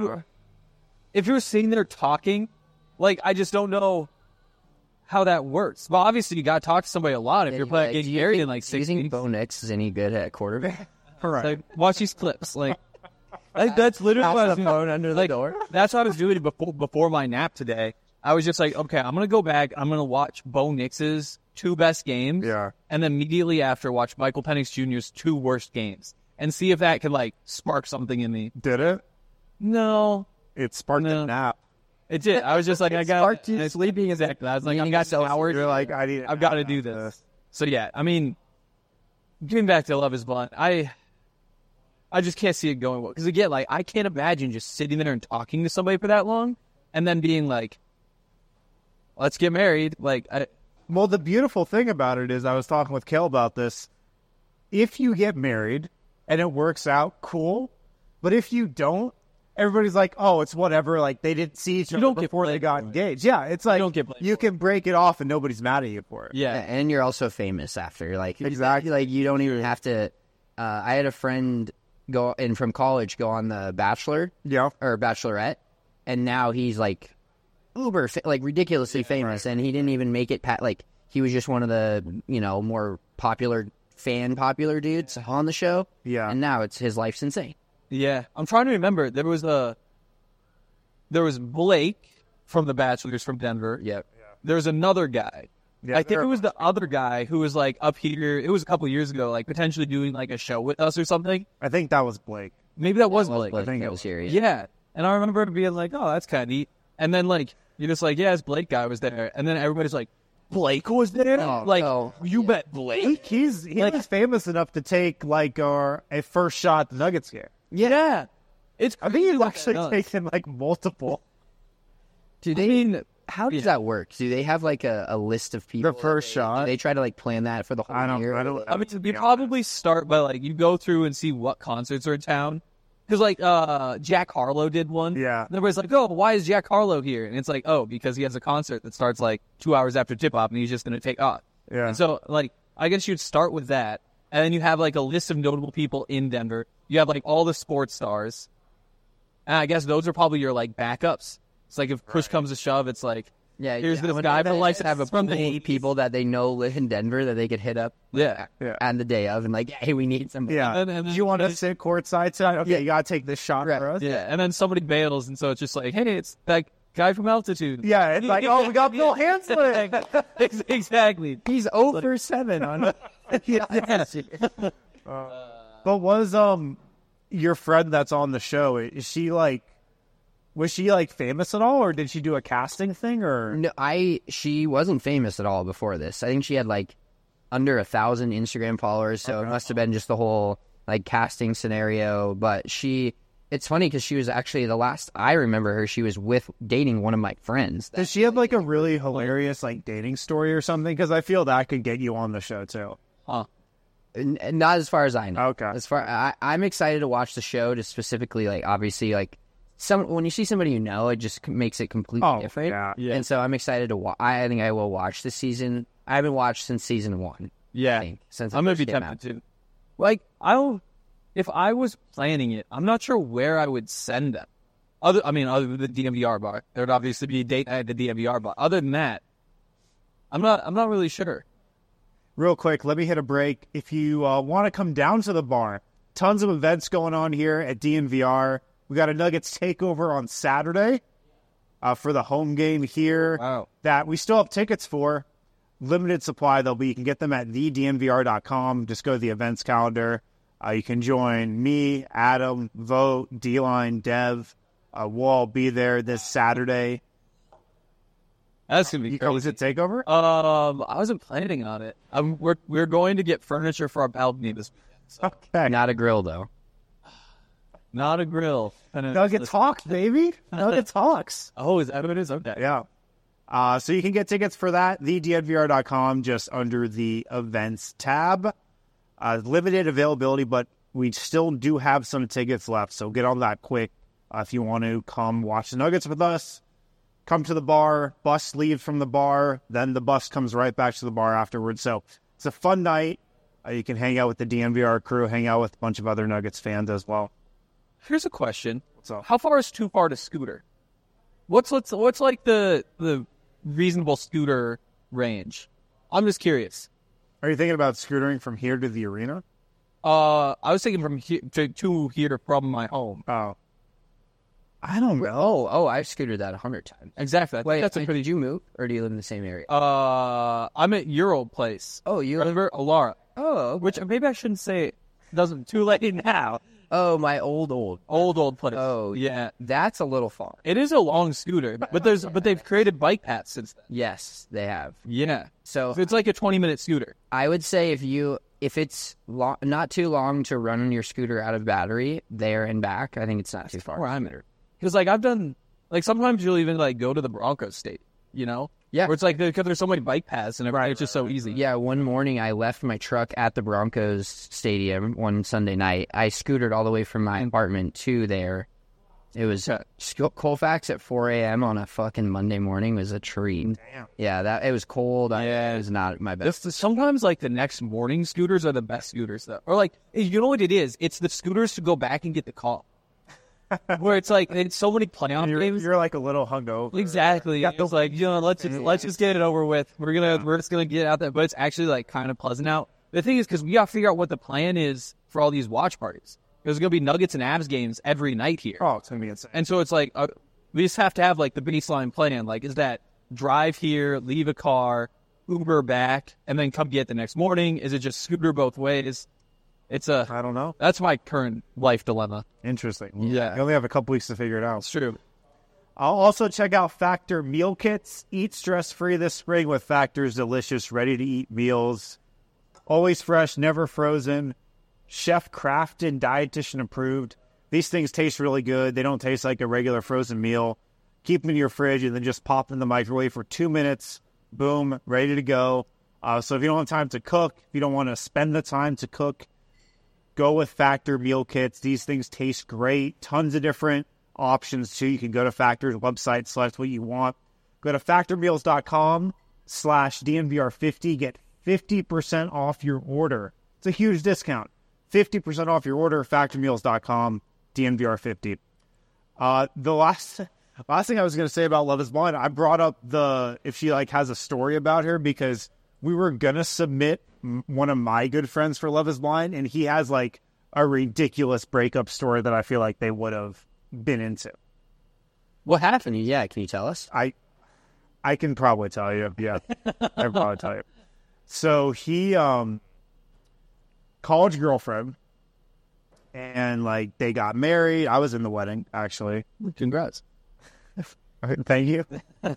you're sitting there talking, like, I just don't know how that works. Well, obviously, you got to talk to somebody a lot if you're playing getting married in like 6 Do you think weeks. Bo Nix is any good at quarterback? Like, watch these clips. Like, that's literally what I was doing. Under the Like, door. that's what I was doing before my nap today. I was just like, okay, I'm going to go back. I'm going to watch Bo Nix's 2 best games. Yeah. And then immediately after, watch Michael Penix Jr.'s 2 worst games. And see if that could, like, spark something in me. Did it? No. It sparked a nap. It did. I was just like, I got sparked you sleeping. Exactly. I was like, You I've got got so hours. You're like, I've got to do this. So, yeah, I mean, getting back to Love is Blind, I just can't see it going well. Because, again, like, I can't imagine just sitting there and talking to somebody for that long and then being like, let's get married. Like, Well, the beautiful thing about it is, I was talking with Kel about this. If you get married and it works out, cool. But if you don't, everybody's like, oh, it's whatever. Like, they didn't see each other before they got engaged. Yeah, it's like, don't get blamed you can break it off and nobody's mad at you for it. Yeah, yeah. and you're also famous after. Like Exactly. Like you don't even have to. I had a friend go in from college go on the Bachelor Yeah. or Bachelorette, and now he's like uber like ridiculously famous, and he didn't even make it. Like he was just one of the more popular dudes on the show. Yeah. and now his life's insane. Yeah, I'm trying to remember. There was Blake from The Bachelors from Denver. Yep. There was another guy. Yeah, I think it was the other guy who was like up here. It was a couple years ago, like potentially doing like a show with us or something. I think that was Blake. Maybe that was Well, Blake. Blake, think that it was was. here. Yeah, and I remember being like, "Oh, that's kind of neat." And then like you're just like, "Yeah, this Blake guy was there," and then everybody's like, "Blake was there?" Oh, like no. you bet Blake. He was famous enough to take like a first shot at the Nuggets game. Yeah, it's. I think he's crazy actually what that does. taken like multiple. Do they? How does that work? Do they have like a list of people? The first shot? Do they try to like plan that for the whole I don't. year? I don't. I mean, you probably start by like you go through and see what concerts are in town. Because like Jack Harlow did one. Yeah. And everybody's like, "Oh, why is Jack Harlow here?" And it's like, "Oh, because he has a concert that starts like 2 hours after tip off, and he's just going to take off." Yeah. And so like I guess you'd start with that, and then you have like a list of notable people in Denver. You have like all the sports stars, and I guess those are probably your like backups. It's like if push comes to shove, it's like, Yeah, here's this when guy they for like to license have a from the pool of 80s. people that they know live in Denver that they could hit up Yeah. on the day of and like, hey, we need somebody. Yeah. And then Do you want to sit courtside tonight? Okay, you gotta take this shot Right. for us. Yeah, and then somebody bails, and so it's just like, hey, it's that guy from Altitude. Yeah, it's like, oh, we got Bill Hansley. Exactly. He's 0 for 7 on. But was your friend that's on the show? Was she like famous at all, or did she do a casting thing, or? No, she wasn't famous at all before this. I think she had like under 1,000 Instagram followers, so it must have been just the whole like casting scenario. But it's funny because she was actually the last I remember her. She was dating one of my friends. Does she have like a really hilarious like dating story or something? Because I feel that could get you on the show too. Huh. Not as far as I know. Okay. I'm excited to watch the show to specifically like obviously like when you see somebody you know, it just makes it completely different. Yeah. And so I'm excited to I think I will watch this season. I haven't watched since season 1. Yeah. I think, since it I'm gonna first be came tempted out. to. Like, if I was planning it, I'm not sure where I would send them. Other than the DMVR bar, there would obviously be a date night at the DMVR bar. Other than that, I'm not really sure. Real quick, let me hit a break. If you want to come down to the bar, tons of events going on here at DNVR. We got a Nuggets takeover on Saturday for the home game here. Wow. That we still have tickets for. limited supply. You can get them at thedmvr.com. Just go to the events calendar. You can join me, Adam, Vote, D-Line, Dev. We'll all be there this Saturday. That's gonna be crazy. Is it Takeover? I wasn't planning on it. We're going to get furniture for our balcony this weekend. So. Okay. Not a grill though. Not a grill. Nugget Talks, baby. Nugget Talks. Oh, is that what it is? Okay. Yeah. So you can get tickets for that, thedmvr.com, just under the events tab. Limited availability, but we still do have some tickets left, so get on that quick if you want to come watch the Nuggets with us. Come to the bar, bus leaves from the bar, then the bus comes right back to the bar afterwards. So it's a fun night. You can hang out with the DNVR crew, hang out with a bunch of other Nuggets fans as well. Here's a question. What's up? How far is too far to scooter? What's like the reasonable scooter range? I'm just curious. Are you thinking about scootering from here to the arena? I was thinking from here to here from my home. Oh. I don't know. Oh, I've scooted that 100 times. Exactly. Wait, that's a pretty. did you move, or do you live in the same area? I'm at your old place. Oh, you remember Alara? Oh, okay. Which maybe I shouldn't say. Doesn't too late now. Oh, my old place. Oh, yeah. That's a little far. It is a long scooter, but they've created bike paths since then. Yes, they have. Yeah. So it's like a 20-minute scooter. I would say if it's not too long to run on your scooter out of battery there and back, I think it's not too far. Where I'm at. Because like I've done, like sometimes you'll even like go to the Broncos stadium, you know? Yeah. Where it's like because there's so many bike paths and everything, it's just so easy. Yeah, one morning I left my truck at the Broncos stadium one Sunday night. I scootered all the way from my apartment to there. It was Colfax at 4 a.m. on a fucking Monday morning was a treat. Damn. Yeah, it was cold. Yeah. It was not my best. Sometimes like the next morning scooters are the best scooters though. Or like, you know what it is? It's the scooters to go back and get the call. Where it's like it's so many playoff games. You're like a little hungover. Exactly. It's like, you know, let's just get it over with. We're just gonna get out there, but it's actually like kind of pleasant out. The thing is, because we gotta figure out what the plan is for all these watch parties. There's gonna be Nuggets and Avs games every night here. Oh, it's gonna be insane. And so it's like we just have to have like the baseline plan. Like, is that drive here, leave a car, Uber back, and then come get the next morning? Is it just scooter both ways? I don't know. That's my current life dilemma. Interesting. Yeah. You only have a couple weeks to figure it out. It's true. I'll also check out Factor Meal Kits. Eat stress-free this spring with Factor's delicious, ready-to-eat meals. Always fresh, never frozen. Chef-crafted, dietitian approved. These things taste really good. They don't taste like a regular frozen meal. Keep them in your fridge and then just pop them in the microwave for 2 minutes. Boom, ready to go. So if you don't have time to cook, if you don't want to spend the time to cook, go with Factor Meal Kits. These things taste great. Tons of different options, too. You can go to Factor's website, select what you want. Go to factormeals.com/DNVR50. Get 50% off your order. It's a huge discount. 50% off your order, factormeals.com, DNVR50. The last thing I was going to say about Love is Blind, I brought up if she like has a story about her because we were going to submit one of my good friends for Love is Blind, and he has like a ridiculous breakup story that I feel like they would have been into. What happened? Yeah, can you tell us? I can probably tell you. Yeah, I can probably tell you. So he, college girlfriend, and like they got married. I was in the wedding, actually. Congrats. Thank you.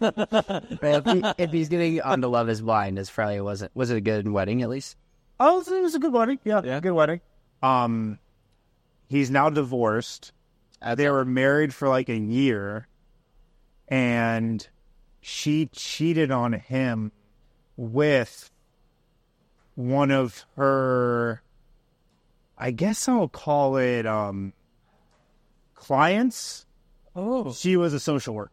If he's getting on to Love is Blind, as probably was it a good wedding at least? Oh, it was a good wedding. Yeah, good wedding. He's now divorced. They were married for like a year, and she cheated on him with one of her, I guess I'll call it clients. Oh. She was a social worker.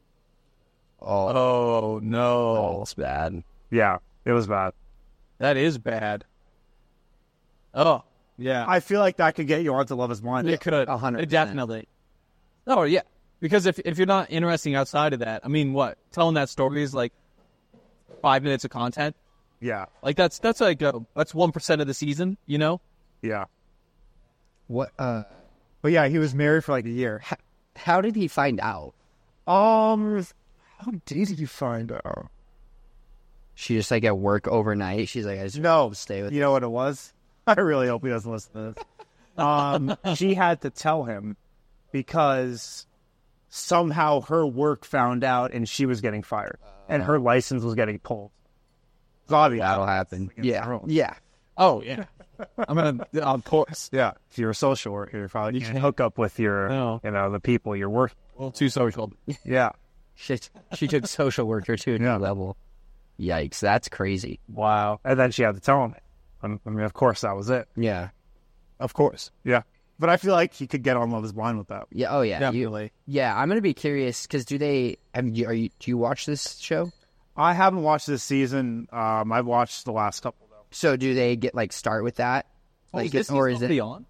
Oh, no. Oh, it's bad. Yeah, it was bad. That is bad. Oh, yeah. I feel like that could get you onto Love is Blind. It could. 100%. Definitely. Oh, yeah. Because if you're not interesting outside of that, I mean, what? Telling that story is like 5 minutes of content? Yeah. Like that's like that's 1% of the season, you know? Yeah. What? But yeah, he was married for like a year. How did he find out? How did you find out? She just like at work overnight. She's like, I just No, stay with you know what it was? I really hope he doesn't listen to this. She had to tell him because somehow her work found out and she was getting fired and her license was getting pulled. That'll happen. Yeah. Yeah. Oh yeah. I'm gonna, of course. Yeah. If you're a social worker, you probably can't hook up with your, the people you're working. A little too social. Yeah. She took social worker to a new level. Yikes. That's crazy. Wow. And then she had to tell him. I mean, of course, that was it. Yeah. Of course. Yeah. But I feel like he could get on Love is Blind with that. Yeah. Oh yeah. Definitely. I'm going to be curious because do you watch this show? I haven't watched this season. I've watched the last couple, though. So do they get start with that? Is this season on?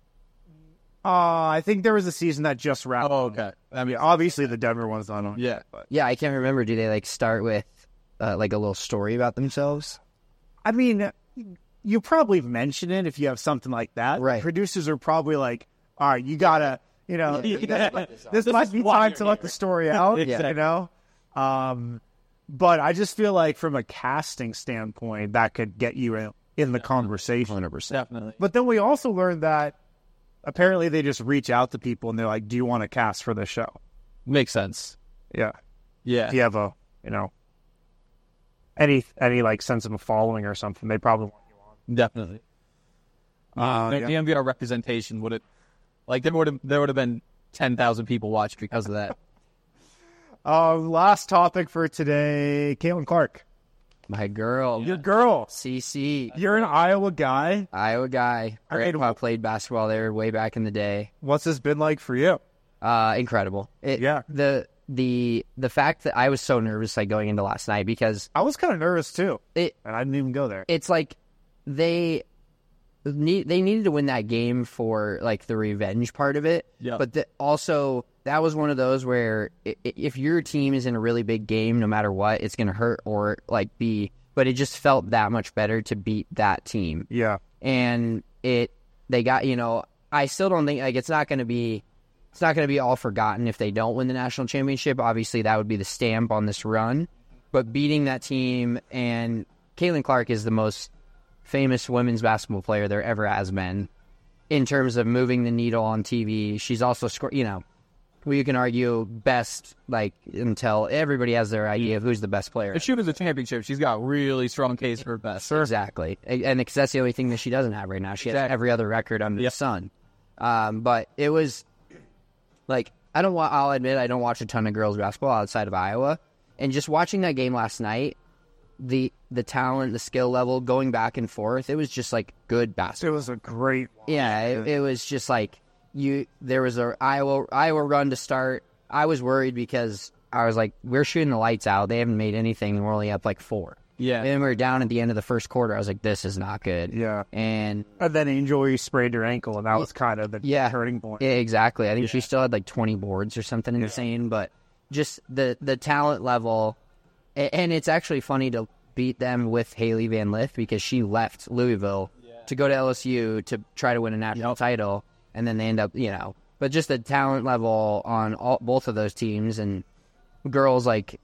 I think there was a season that just wrapped. Oh, okay. I mean, obviously the Denver one's not on. Yeah. But. Yeah, I can't remember. Do they start with a little story about themselves? I mean, you probably mention it if you have something like that. Right. Producers are probably like, all right, you gotta, this might be time to let the story out. Yeah. But I just feel like from a casting standpoint, that could get you in the conversation. 100%. Definitely. But then we also learned that apparently they just reach out to people and they're like, do you want to cast for this show? Makes sense. Yeah. Yeah. If you have a, any sense of a following or something, they probably want you on. Definitely. The DMVR representation would there would have been 10,000 people watched because of that. Last topic for today, Caitlin Clark. My girl. Your girl. CC. You're an Iowa guy. Iowa guy. Grandpa played basketball there way back in the day. What's this been like for you? Incredible. The fact that I was so nervous going into last night because I was kind of nervous too, and I didn't even go there. It's like they needed to win that game for the revenge part of it. Yeah. But also that was one of those where if your team is in a really big game, no matter what, it's going to hurt or but it just felt that much better to beat that team. Yeah. And they got, I still don't think it's not going to be all forgotten if they don't win the national championship. Obviously that would be the stamp on this run, but beating that team, and Caitlin Clark is the most famous women's basketball player there ever has been in terms of moving the needle on TV. She's also scored, you can argue best, until everybody has their idea of who's the best player. If she wins the championship, she's got a really strong case for best. Sure. Exactly. And because that's the only thing that she doesn't have right now. She has every other record under the sun. But it was I'll admit I don't watch a ton of girls basketball outside of Iowa. And just watching that game last night, the talent, the skill level, going back and forth, it was just good basketball. It was a great watch. Yeah, it was just there was a Iowa run to start. I was worried because I was we're shooting the lights out. They haven't made anything, and we're only up 4. Yeah. And then we were down at the end of the first quarter. I was like, this is not good. Yeah. And then Angel Reese sprained her ankle, and that was kind of the turning point. Yeah, exactly. I think she still had 20 boards or something insane, but just the talent level. And it's actually funny to beat them with Haley Van Lith because she left Louisville to go to LSU to try to win a national title, and then they end up, but just the talent level on both of those teams, and girls like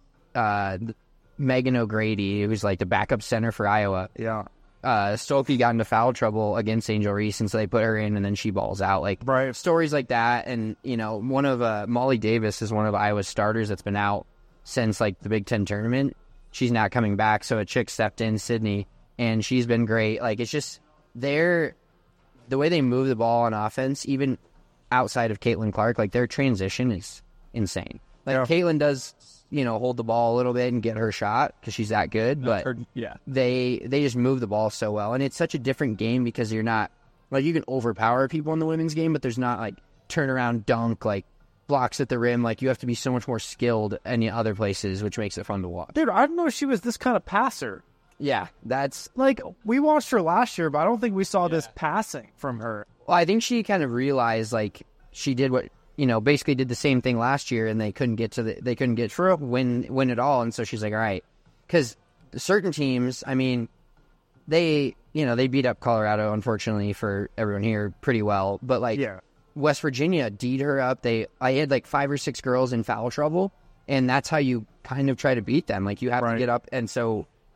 Megan O'Grady, who's the backup center for Iowa. Yeah. Stokey got into foul trouble against Angel Reese, and so they put her in, and then she balls out. Right. Stories like that, and one of Molly Davis is one of Iowa's starters that's been out since the Big Ten tournament. She's not coming back, so a chick stepped in, Sydney, and she's been great. It's just the way they move the ball on offense, even outside of Caitlin Clark, their transition is insane. Caitlin does, hold the ball a little bit and get her shot because she's that good, but they just move the ball so well, and it's such a different game because you're not you can overpower people in the women's game, but there's not turnaround dunk blocks at the rim. You have to be so much more skilled in other places, which makes it fun to watch. Dude, I didn't know she was this kind of passer. Yeah, that's we watched her last year, but I don't think we saw this passing from her. Well, I think she kind of realized she did what basically did the same thing last year, and they couldn't get to win it all, and so she's like, all right, because certain teams, I mean, they beat up Colorado, unfortunately for everyone here, pretty well, but West Virginia D'd her up. I had 5 or 6 girls in foul trouble, and that's how you kind of try to beat them. You have to get up, and so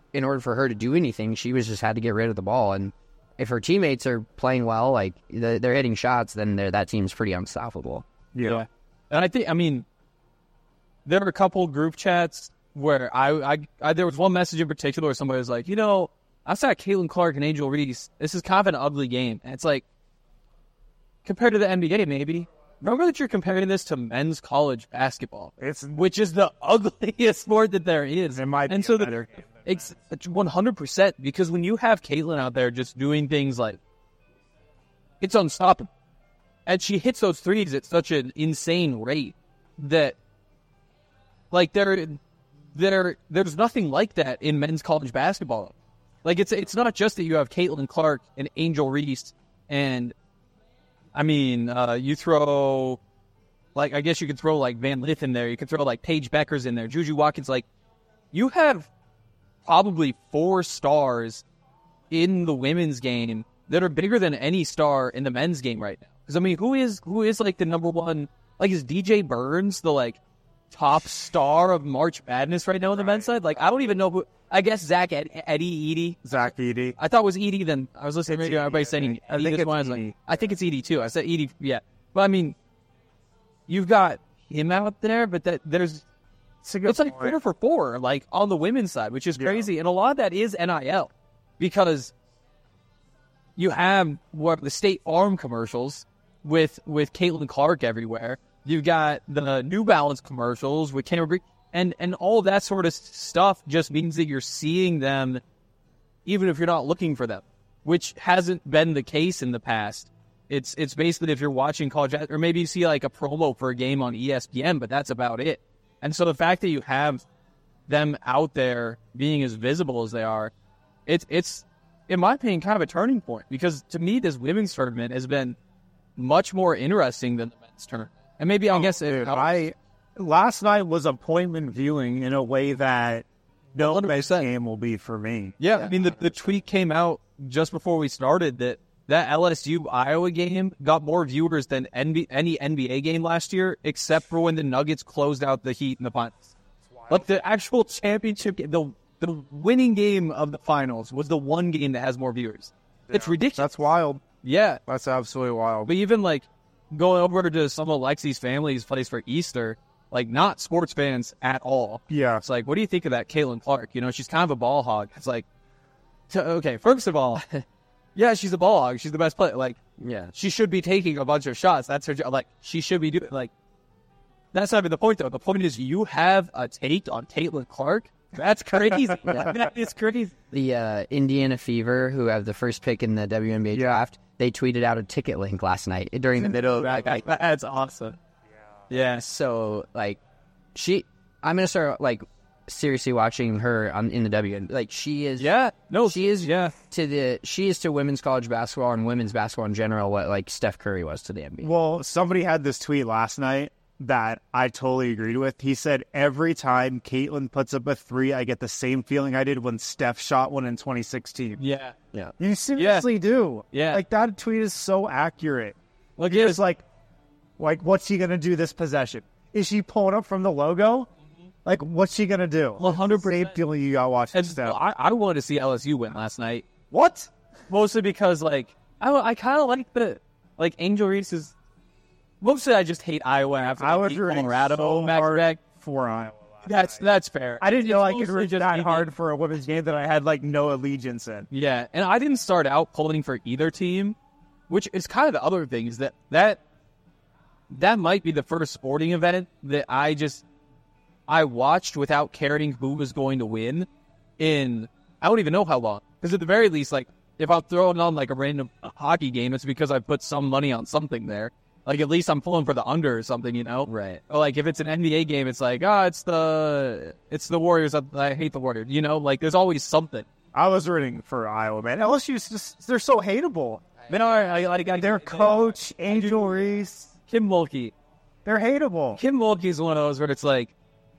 in order for her to do anything, she was just had to get rid of the ball. And if her teammates are playing well, like they're hitting shots, then that team's pretty unstoppable. Yeah. And I think, there were a couple group chats where there was one message in particular where somebody was like, outside Caitlin Clark and Angel Reese, this is kind of an ugly game. And it's like, compared to the NBA, maybe. Remember that you're comparing this to men's college basketball, which is the ugliest sport that there is. It might be a better game. It's 100%, because when you have Caitlin out there just doing things like, it's unstoppable. And she hits those threes at such an insane rate that, like, there's nothing like that in men's college basketball. Like, it's not just that you have Caitlin Clark and Angel Reese and, you throw, like, I guess you could throw, like, Van Lith in there. You could throw, like, Paige Beckers in there. Juju Watkins. Like, you have probably 4 stars in the women's game that are bigger than any star in the men's game right now. Because, who is, like, the number one, like, is DJ Burns the, like, top star of March Madness right now on the men's side? Like, I don't even know who. I guess Zach Edey. Zach Edey. I thought it was Edey. Then I was listening to everybody saying I think it's Edey. I think it's Edey too. I said Edey. Yeah, but you've got him out there, but it's like 4 for 4, like on the women's side, which is crazy, and a lot of that is NIL, because you have the State Farm commercials with Caitlin Clark everywhere. You've got the New Balance commercials with Cameron, and all that sort of stuff just means that you're seeing them even if you're not looking for them, which hasn't been the case in the past. It's basically if you're watching college, or maybe you see like a promo for a game on ESPN, but that's about it. And so the fact that you have them out there being as visible as they are, it's in my opinion kind of a turning point, because to me this women's tournament has been much more interesting than the men's tournament. And maybe last night was appointment viewing in a way that no men's game will be for me. Yeah, the tweet came out just before we started that LSU Iowa game got more viewers than any NBA game last year, except for when the Nuggets closed out the Heat in the finals. Like the actual championship game, the winning game of the finals was the one game that has more viewers. Yeah, it's ridiculous. That's wild. Yeah, that's absolutely wild. But even like going over to some of Lexi's family's place for Easter, like not sports fans at all. Yeah. It's like, what do you think of that Caitlin Clark? She's kind of a ball hog. It's like, okay, first of all, yeah, she's a ball hog. She's the best player. Like, yeah, she should be taking a bunch of shots. That's her job. Like, she should be doing, like, that's not even the point, though. The point is you have a take on Caitlin Clark. That's crazy. That is crazy. The Indiana Fever, who have the first pick in the WNBA draft, they tweeted out a ticket link last night during the middle of that. That's awesome. Yeah. So, like, I'm going to start, like, seriously watching her in the WNBA. Like, she is. Yeah. No, she is. Yeah. She is to women's college basketball and women's basketball in general what, like, Steph Curry was to the NBA. Well, somebody had this tweet last night that I totally agreed with. He said, every time Caitlin puts up a 3, I get the same feeling I did when Steph shot one in 2016. Yeah. Yeah. You seriously do. Yeah. Like, that tweet is so accurate. Look, it's like, what's she going to do this possession? Is she pulling up from the logo? Mm-hmm. Like, what's she going to do? 100%. Same feeling you got watching Steph. I wanted to see LSU win last night. What? Mostly because, like, I kind of like the, like, Angel Reese is. Mostly, I just hate Iowa after I was Colorado. So hard for Iowa. That's fair. I didn't know I could root that hard for a women's game that I had like no allegiance in. Yeah, and I didn't start out pulling for either team, which is kind of the other thing is that might be the first sporting event that I watched without caring who was going to win in I don't even know how long. Because at the very least, like if I'm throwing on like a random hockey game, it's because I put some money on something there. Like, at least I'm pulling for the under or something, you know? Right. Or, like, if it's an NBA game, it's like, it's the Warriors. I hate the Warriors. You know? Like, there's always something. I was rooting for Iowa, man. LSU's just, they're so hateable. They are. Their coach, Angel Reese. Kim Mulkey. They're hateable. Kim Mulkey's one of those where it's like...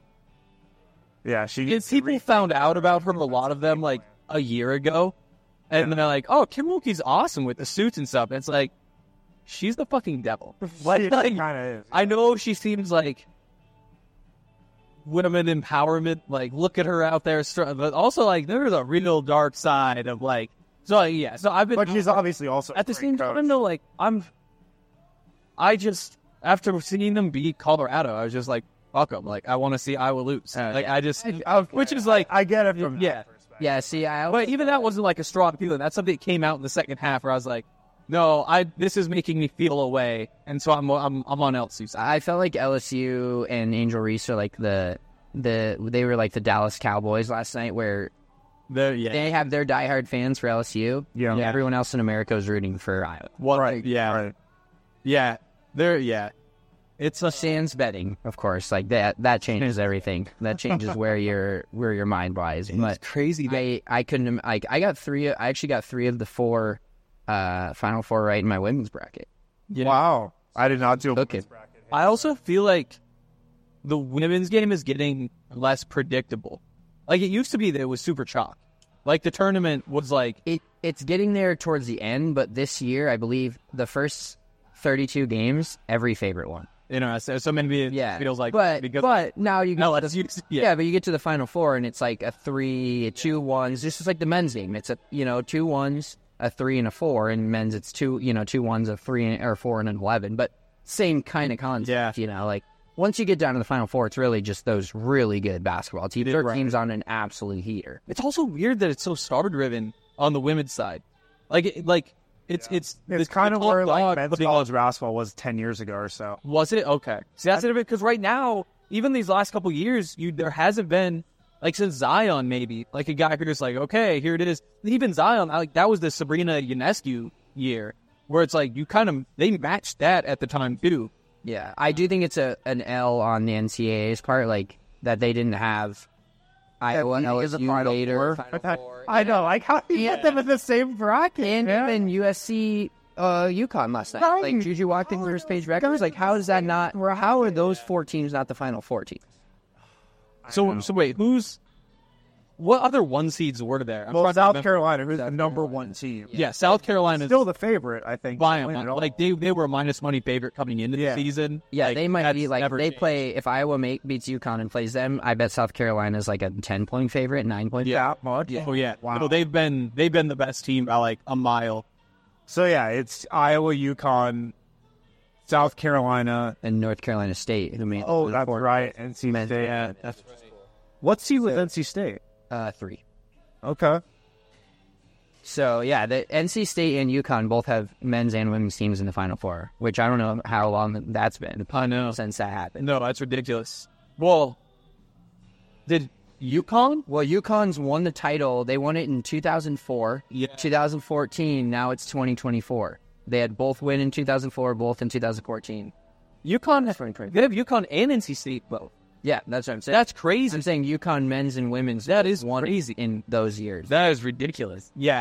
Yeah, people found out about her, a lot of them, like, a year ago. And they're like, oh, Kim Mulkey's awesome with the suits and stuff. And it's like... She's the fucking devil. Like, kind of is. I know she seems like women empowerment. Like, look at her out there, but also like there's a real dark side of like. So yeah, so I've been. But she's obviously also at the same time though. Like I just after seeing them beat Colorado, I was just like, fuck them. Like I want to see Iowa lose. Which is like I get it from yeah. Yeah, see, But even that wasn't like a strong feeling. That's something that came out in the second half where I was like, no, this is making me feel away, and so I'm on LSU's side. I felt like LSU and Angel Reese are like they were like the Dallas Cowboys last night, where they have their diehard fans for LSU. Yeah. And everyone else in America is rooting for Iowa. Right. Yeah. Right. Yeah. It's a sans betting, of course. Like that changes everything. That changes where your mind lies. It's crazy. I couldn't. I got three. I actually got 3 of the 4 Final Four right in my women's bracket. Yeah. Wow. I did not do a women's bracket. I also feel like the women's game is getting less predictable. Like it used to be that it was super chalk. Like the tournament was like it's getting there towards the end, but this year I believe the first 32 games, every favorite one. So maybe it feels like, but now you get but you get to the Final Four and it's like a 3, 2 1s. This is like the men's game. It's a 2 1s, a 3 and a 4, and men's it's 2 2 1s, a 3 or 4 and an 11. But same kind of concept. Yeah. Like once you get down to the Final Four, it's really just those really good basketball teams. Their teams on an absolute heater. It's also weird that it's so star driven on the women's side. It's kind of where like men's college basketball was 10 years ago or so. Was it? Okay. See, that's it. Because right now, even these last couple years, there hasn't been, like since Zion maybe, like a guy who's like, okay, here it is. Even Zion, like that was the Sabrina Ionescu year, where it's like they matched that at the time too. Yeah, I do think it's an L on the NCAA's part, like that they didn't have Iowa and LSU later. Final Four. I know, like how do you get them in the same bracket? And even USC, UConn last night. Right. Like Juju walked in first page records. Like how is that not? How are those 4 teams not the Final Four teams? So wait, what other 1 seeds were there? South Carolina, who's the number 1 team. Yeah, South Carolina is still the favorite, I think. Like they were a minus money favorite coming into the season. Yeah, like, they might be like they changed. play. If Iowa beats UConn and plays them, I bet South Carolina is like a 10-point favorite, 9-point. Yeah, much. Oh yeah. Wow. No, they've been the best team by like a mile. So yeah, it's Iowa, UConn, South Carolina, and North Carolina State. Who made? Oh, that's right. NC State. Yeah, that's right. What's he with NC State? 3. Okay. So, yeah, the NC State and UConn both have men's and women's teams in the Final Four, which I don't know how long that's been. I know. Since that happened. No, that's ridiculous. Well, did UConn? Well, UConn's won the title. They won it in 2004, 2014. Now it's 2024. They had both win in 2004, both in 2014. UConn, they have UConn and NC State both. Yeah, that's what I'm saying. That's crazy. I'm saying UConn men's and women's. That is won crazy in those years. That is ridiculous. Yeah,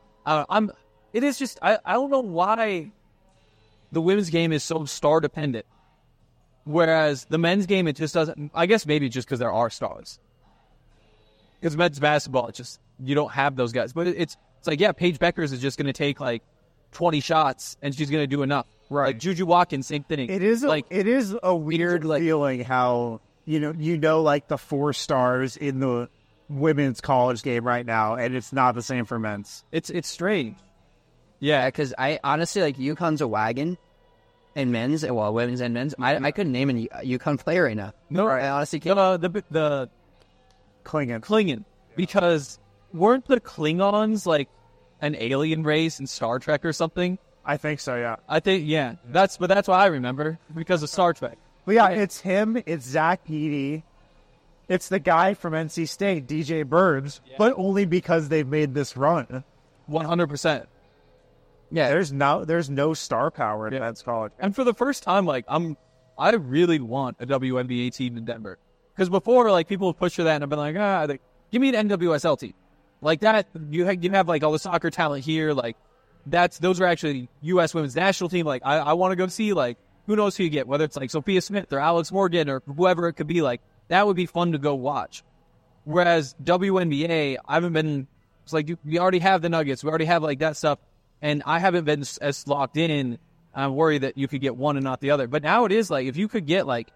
it is just I don't know why the women's game is so star dependent, whereas the men's game it just doesn't. I guess maybe just because there are stars. Because men's basketball, it's just you don't have those guys. But it's like Paige Beckers is just going to take like 20 shots and she's going to do enough. Right. Like Juju Watkins, same thing. It is a weird feeling how like the 4 stars in the women's college game right now, and it's not the same for men's. It's strange. Yeah, because I honestly like UConn's a wagon, and men's, well, women's and men's. I couldn't name a UConn player right now. No, I honestly can't. The Klingon, because weren't the Klingons like an alien race in Star Trek or something? I think so. Yeah, I think that's what I remember because of Star Trek. But yeah, it's him. It's Zach Edey. It's the guy from NC State, DJ Burns, but only because they've made this run. 100%. Yeah, there's no star power in men's college. And for the first time, like I really want a WNBA team in Denver. Because before, like people would push for that, and I've been like, give me an NWSL team, like that. You have like all the soccer talent here, like those are actually U.S. women's national team. Like I want to go see like who knows who you get, whether it's like Sophia Smith or Alex Morgan or whoever it could be. Like that would be fun to go watch. Whereas WNBA, I haven't been. It's like we already have the Nuggets, we already have like that stuff, and I haven't been as locked in. I'm worried that you could get one and not the other. But now it is like if you could get like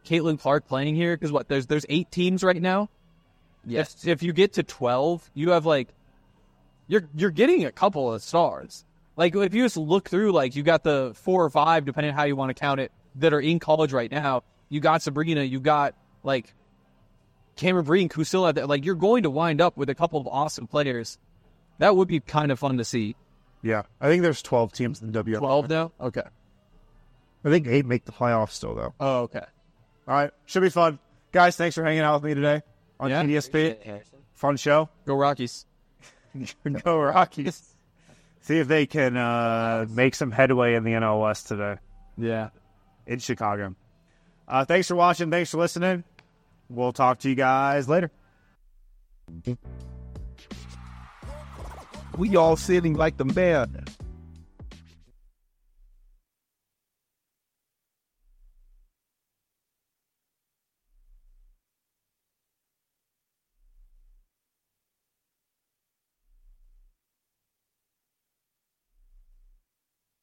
Caitlin Clark playing here, because there's 8 teams right now. Yes. If you get to 12, you have like you're getting a couple of stars. Like if you just look through, like you got the 4 or 5, depending on how you want to count it, that are in college right now. You got Sabrina, you got like Cameron Breen, Kusila. Like you're going to wind up with a couple of awesome players. That would be kind of fun to see. Yeah, I think there's 12 teams in the WNBA. 12 now? Okay. I think 8 make the playoffs still, though. Oh, okay. All right, should be fun. Guys, thanks for hanging out with me today on TDSP. Fun show. Go Rockies. Go Rockies. See if they can make some headway in the NL West today. Yeah. In Chicago. Thanks for watching. Thanks for listening. We'll talk to you guys later. We all sitting like the man.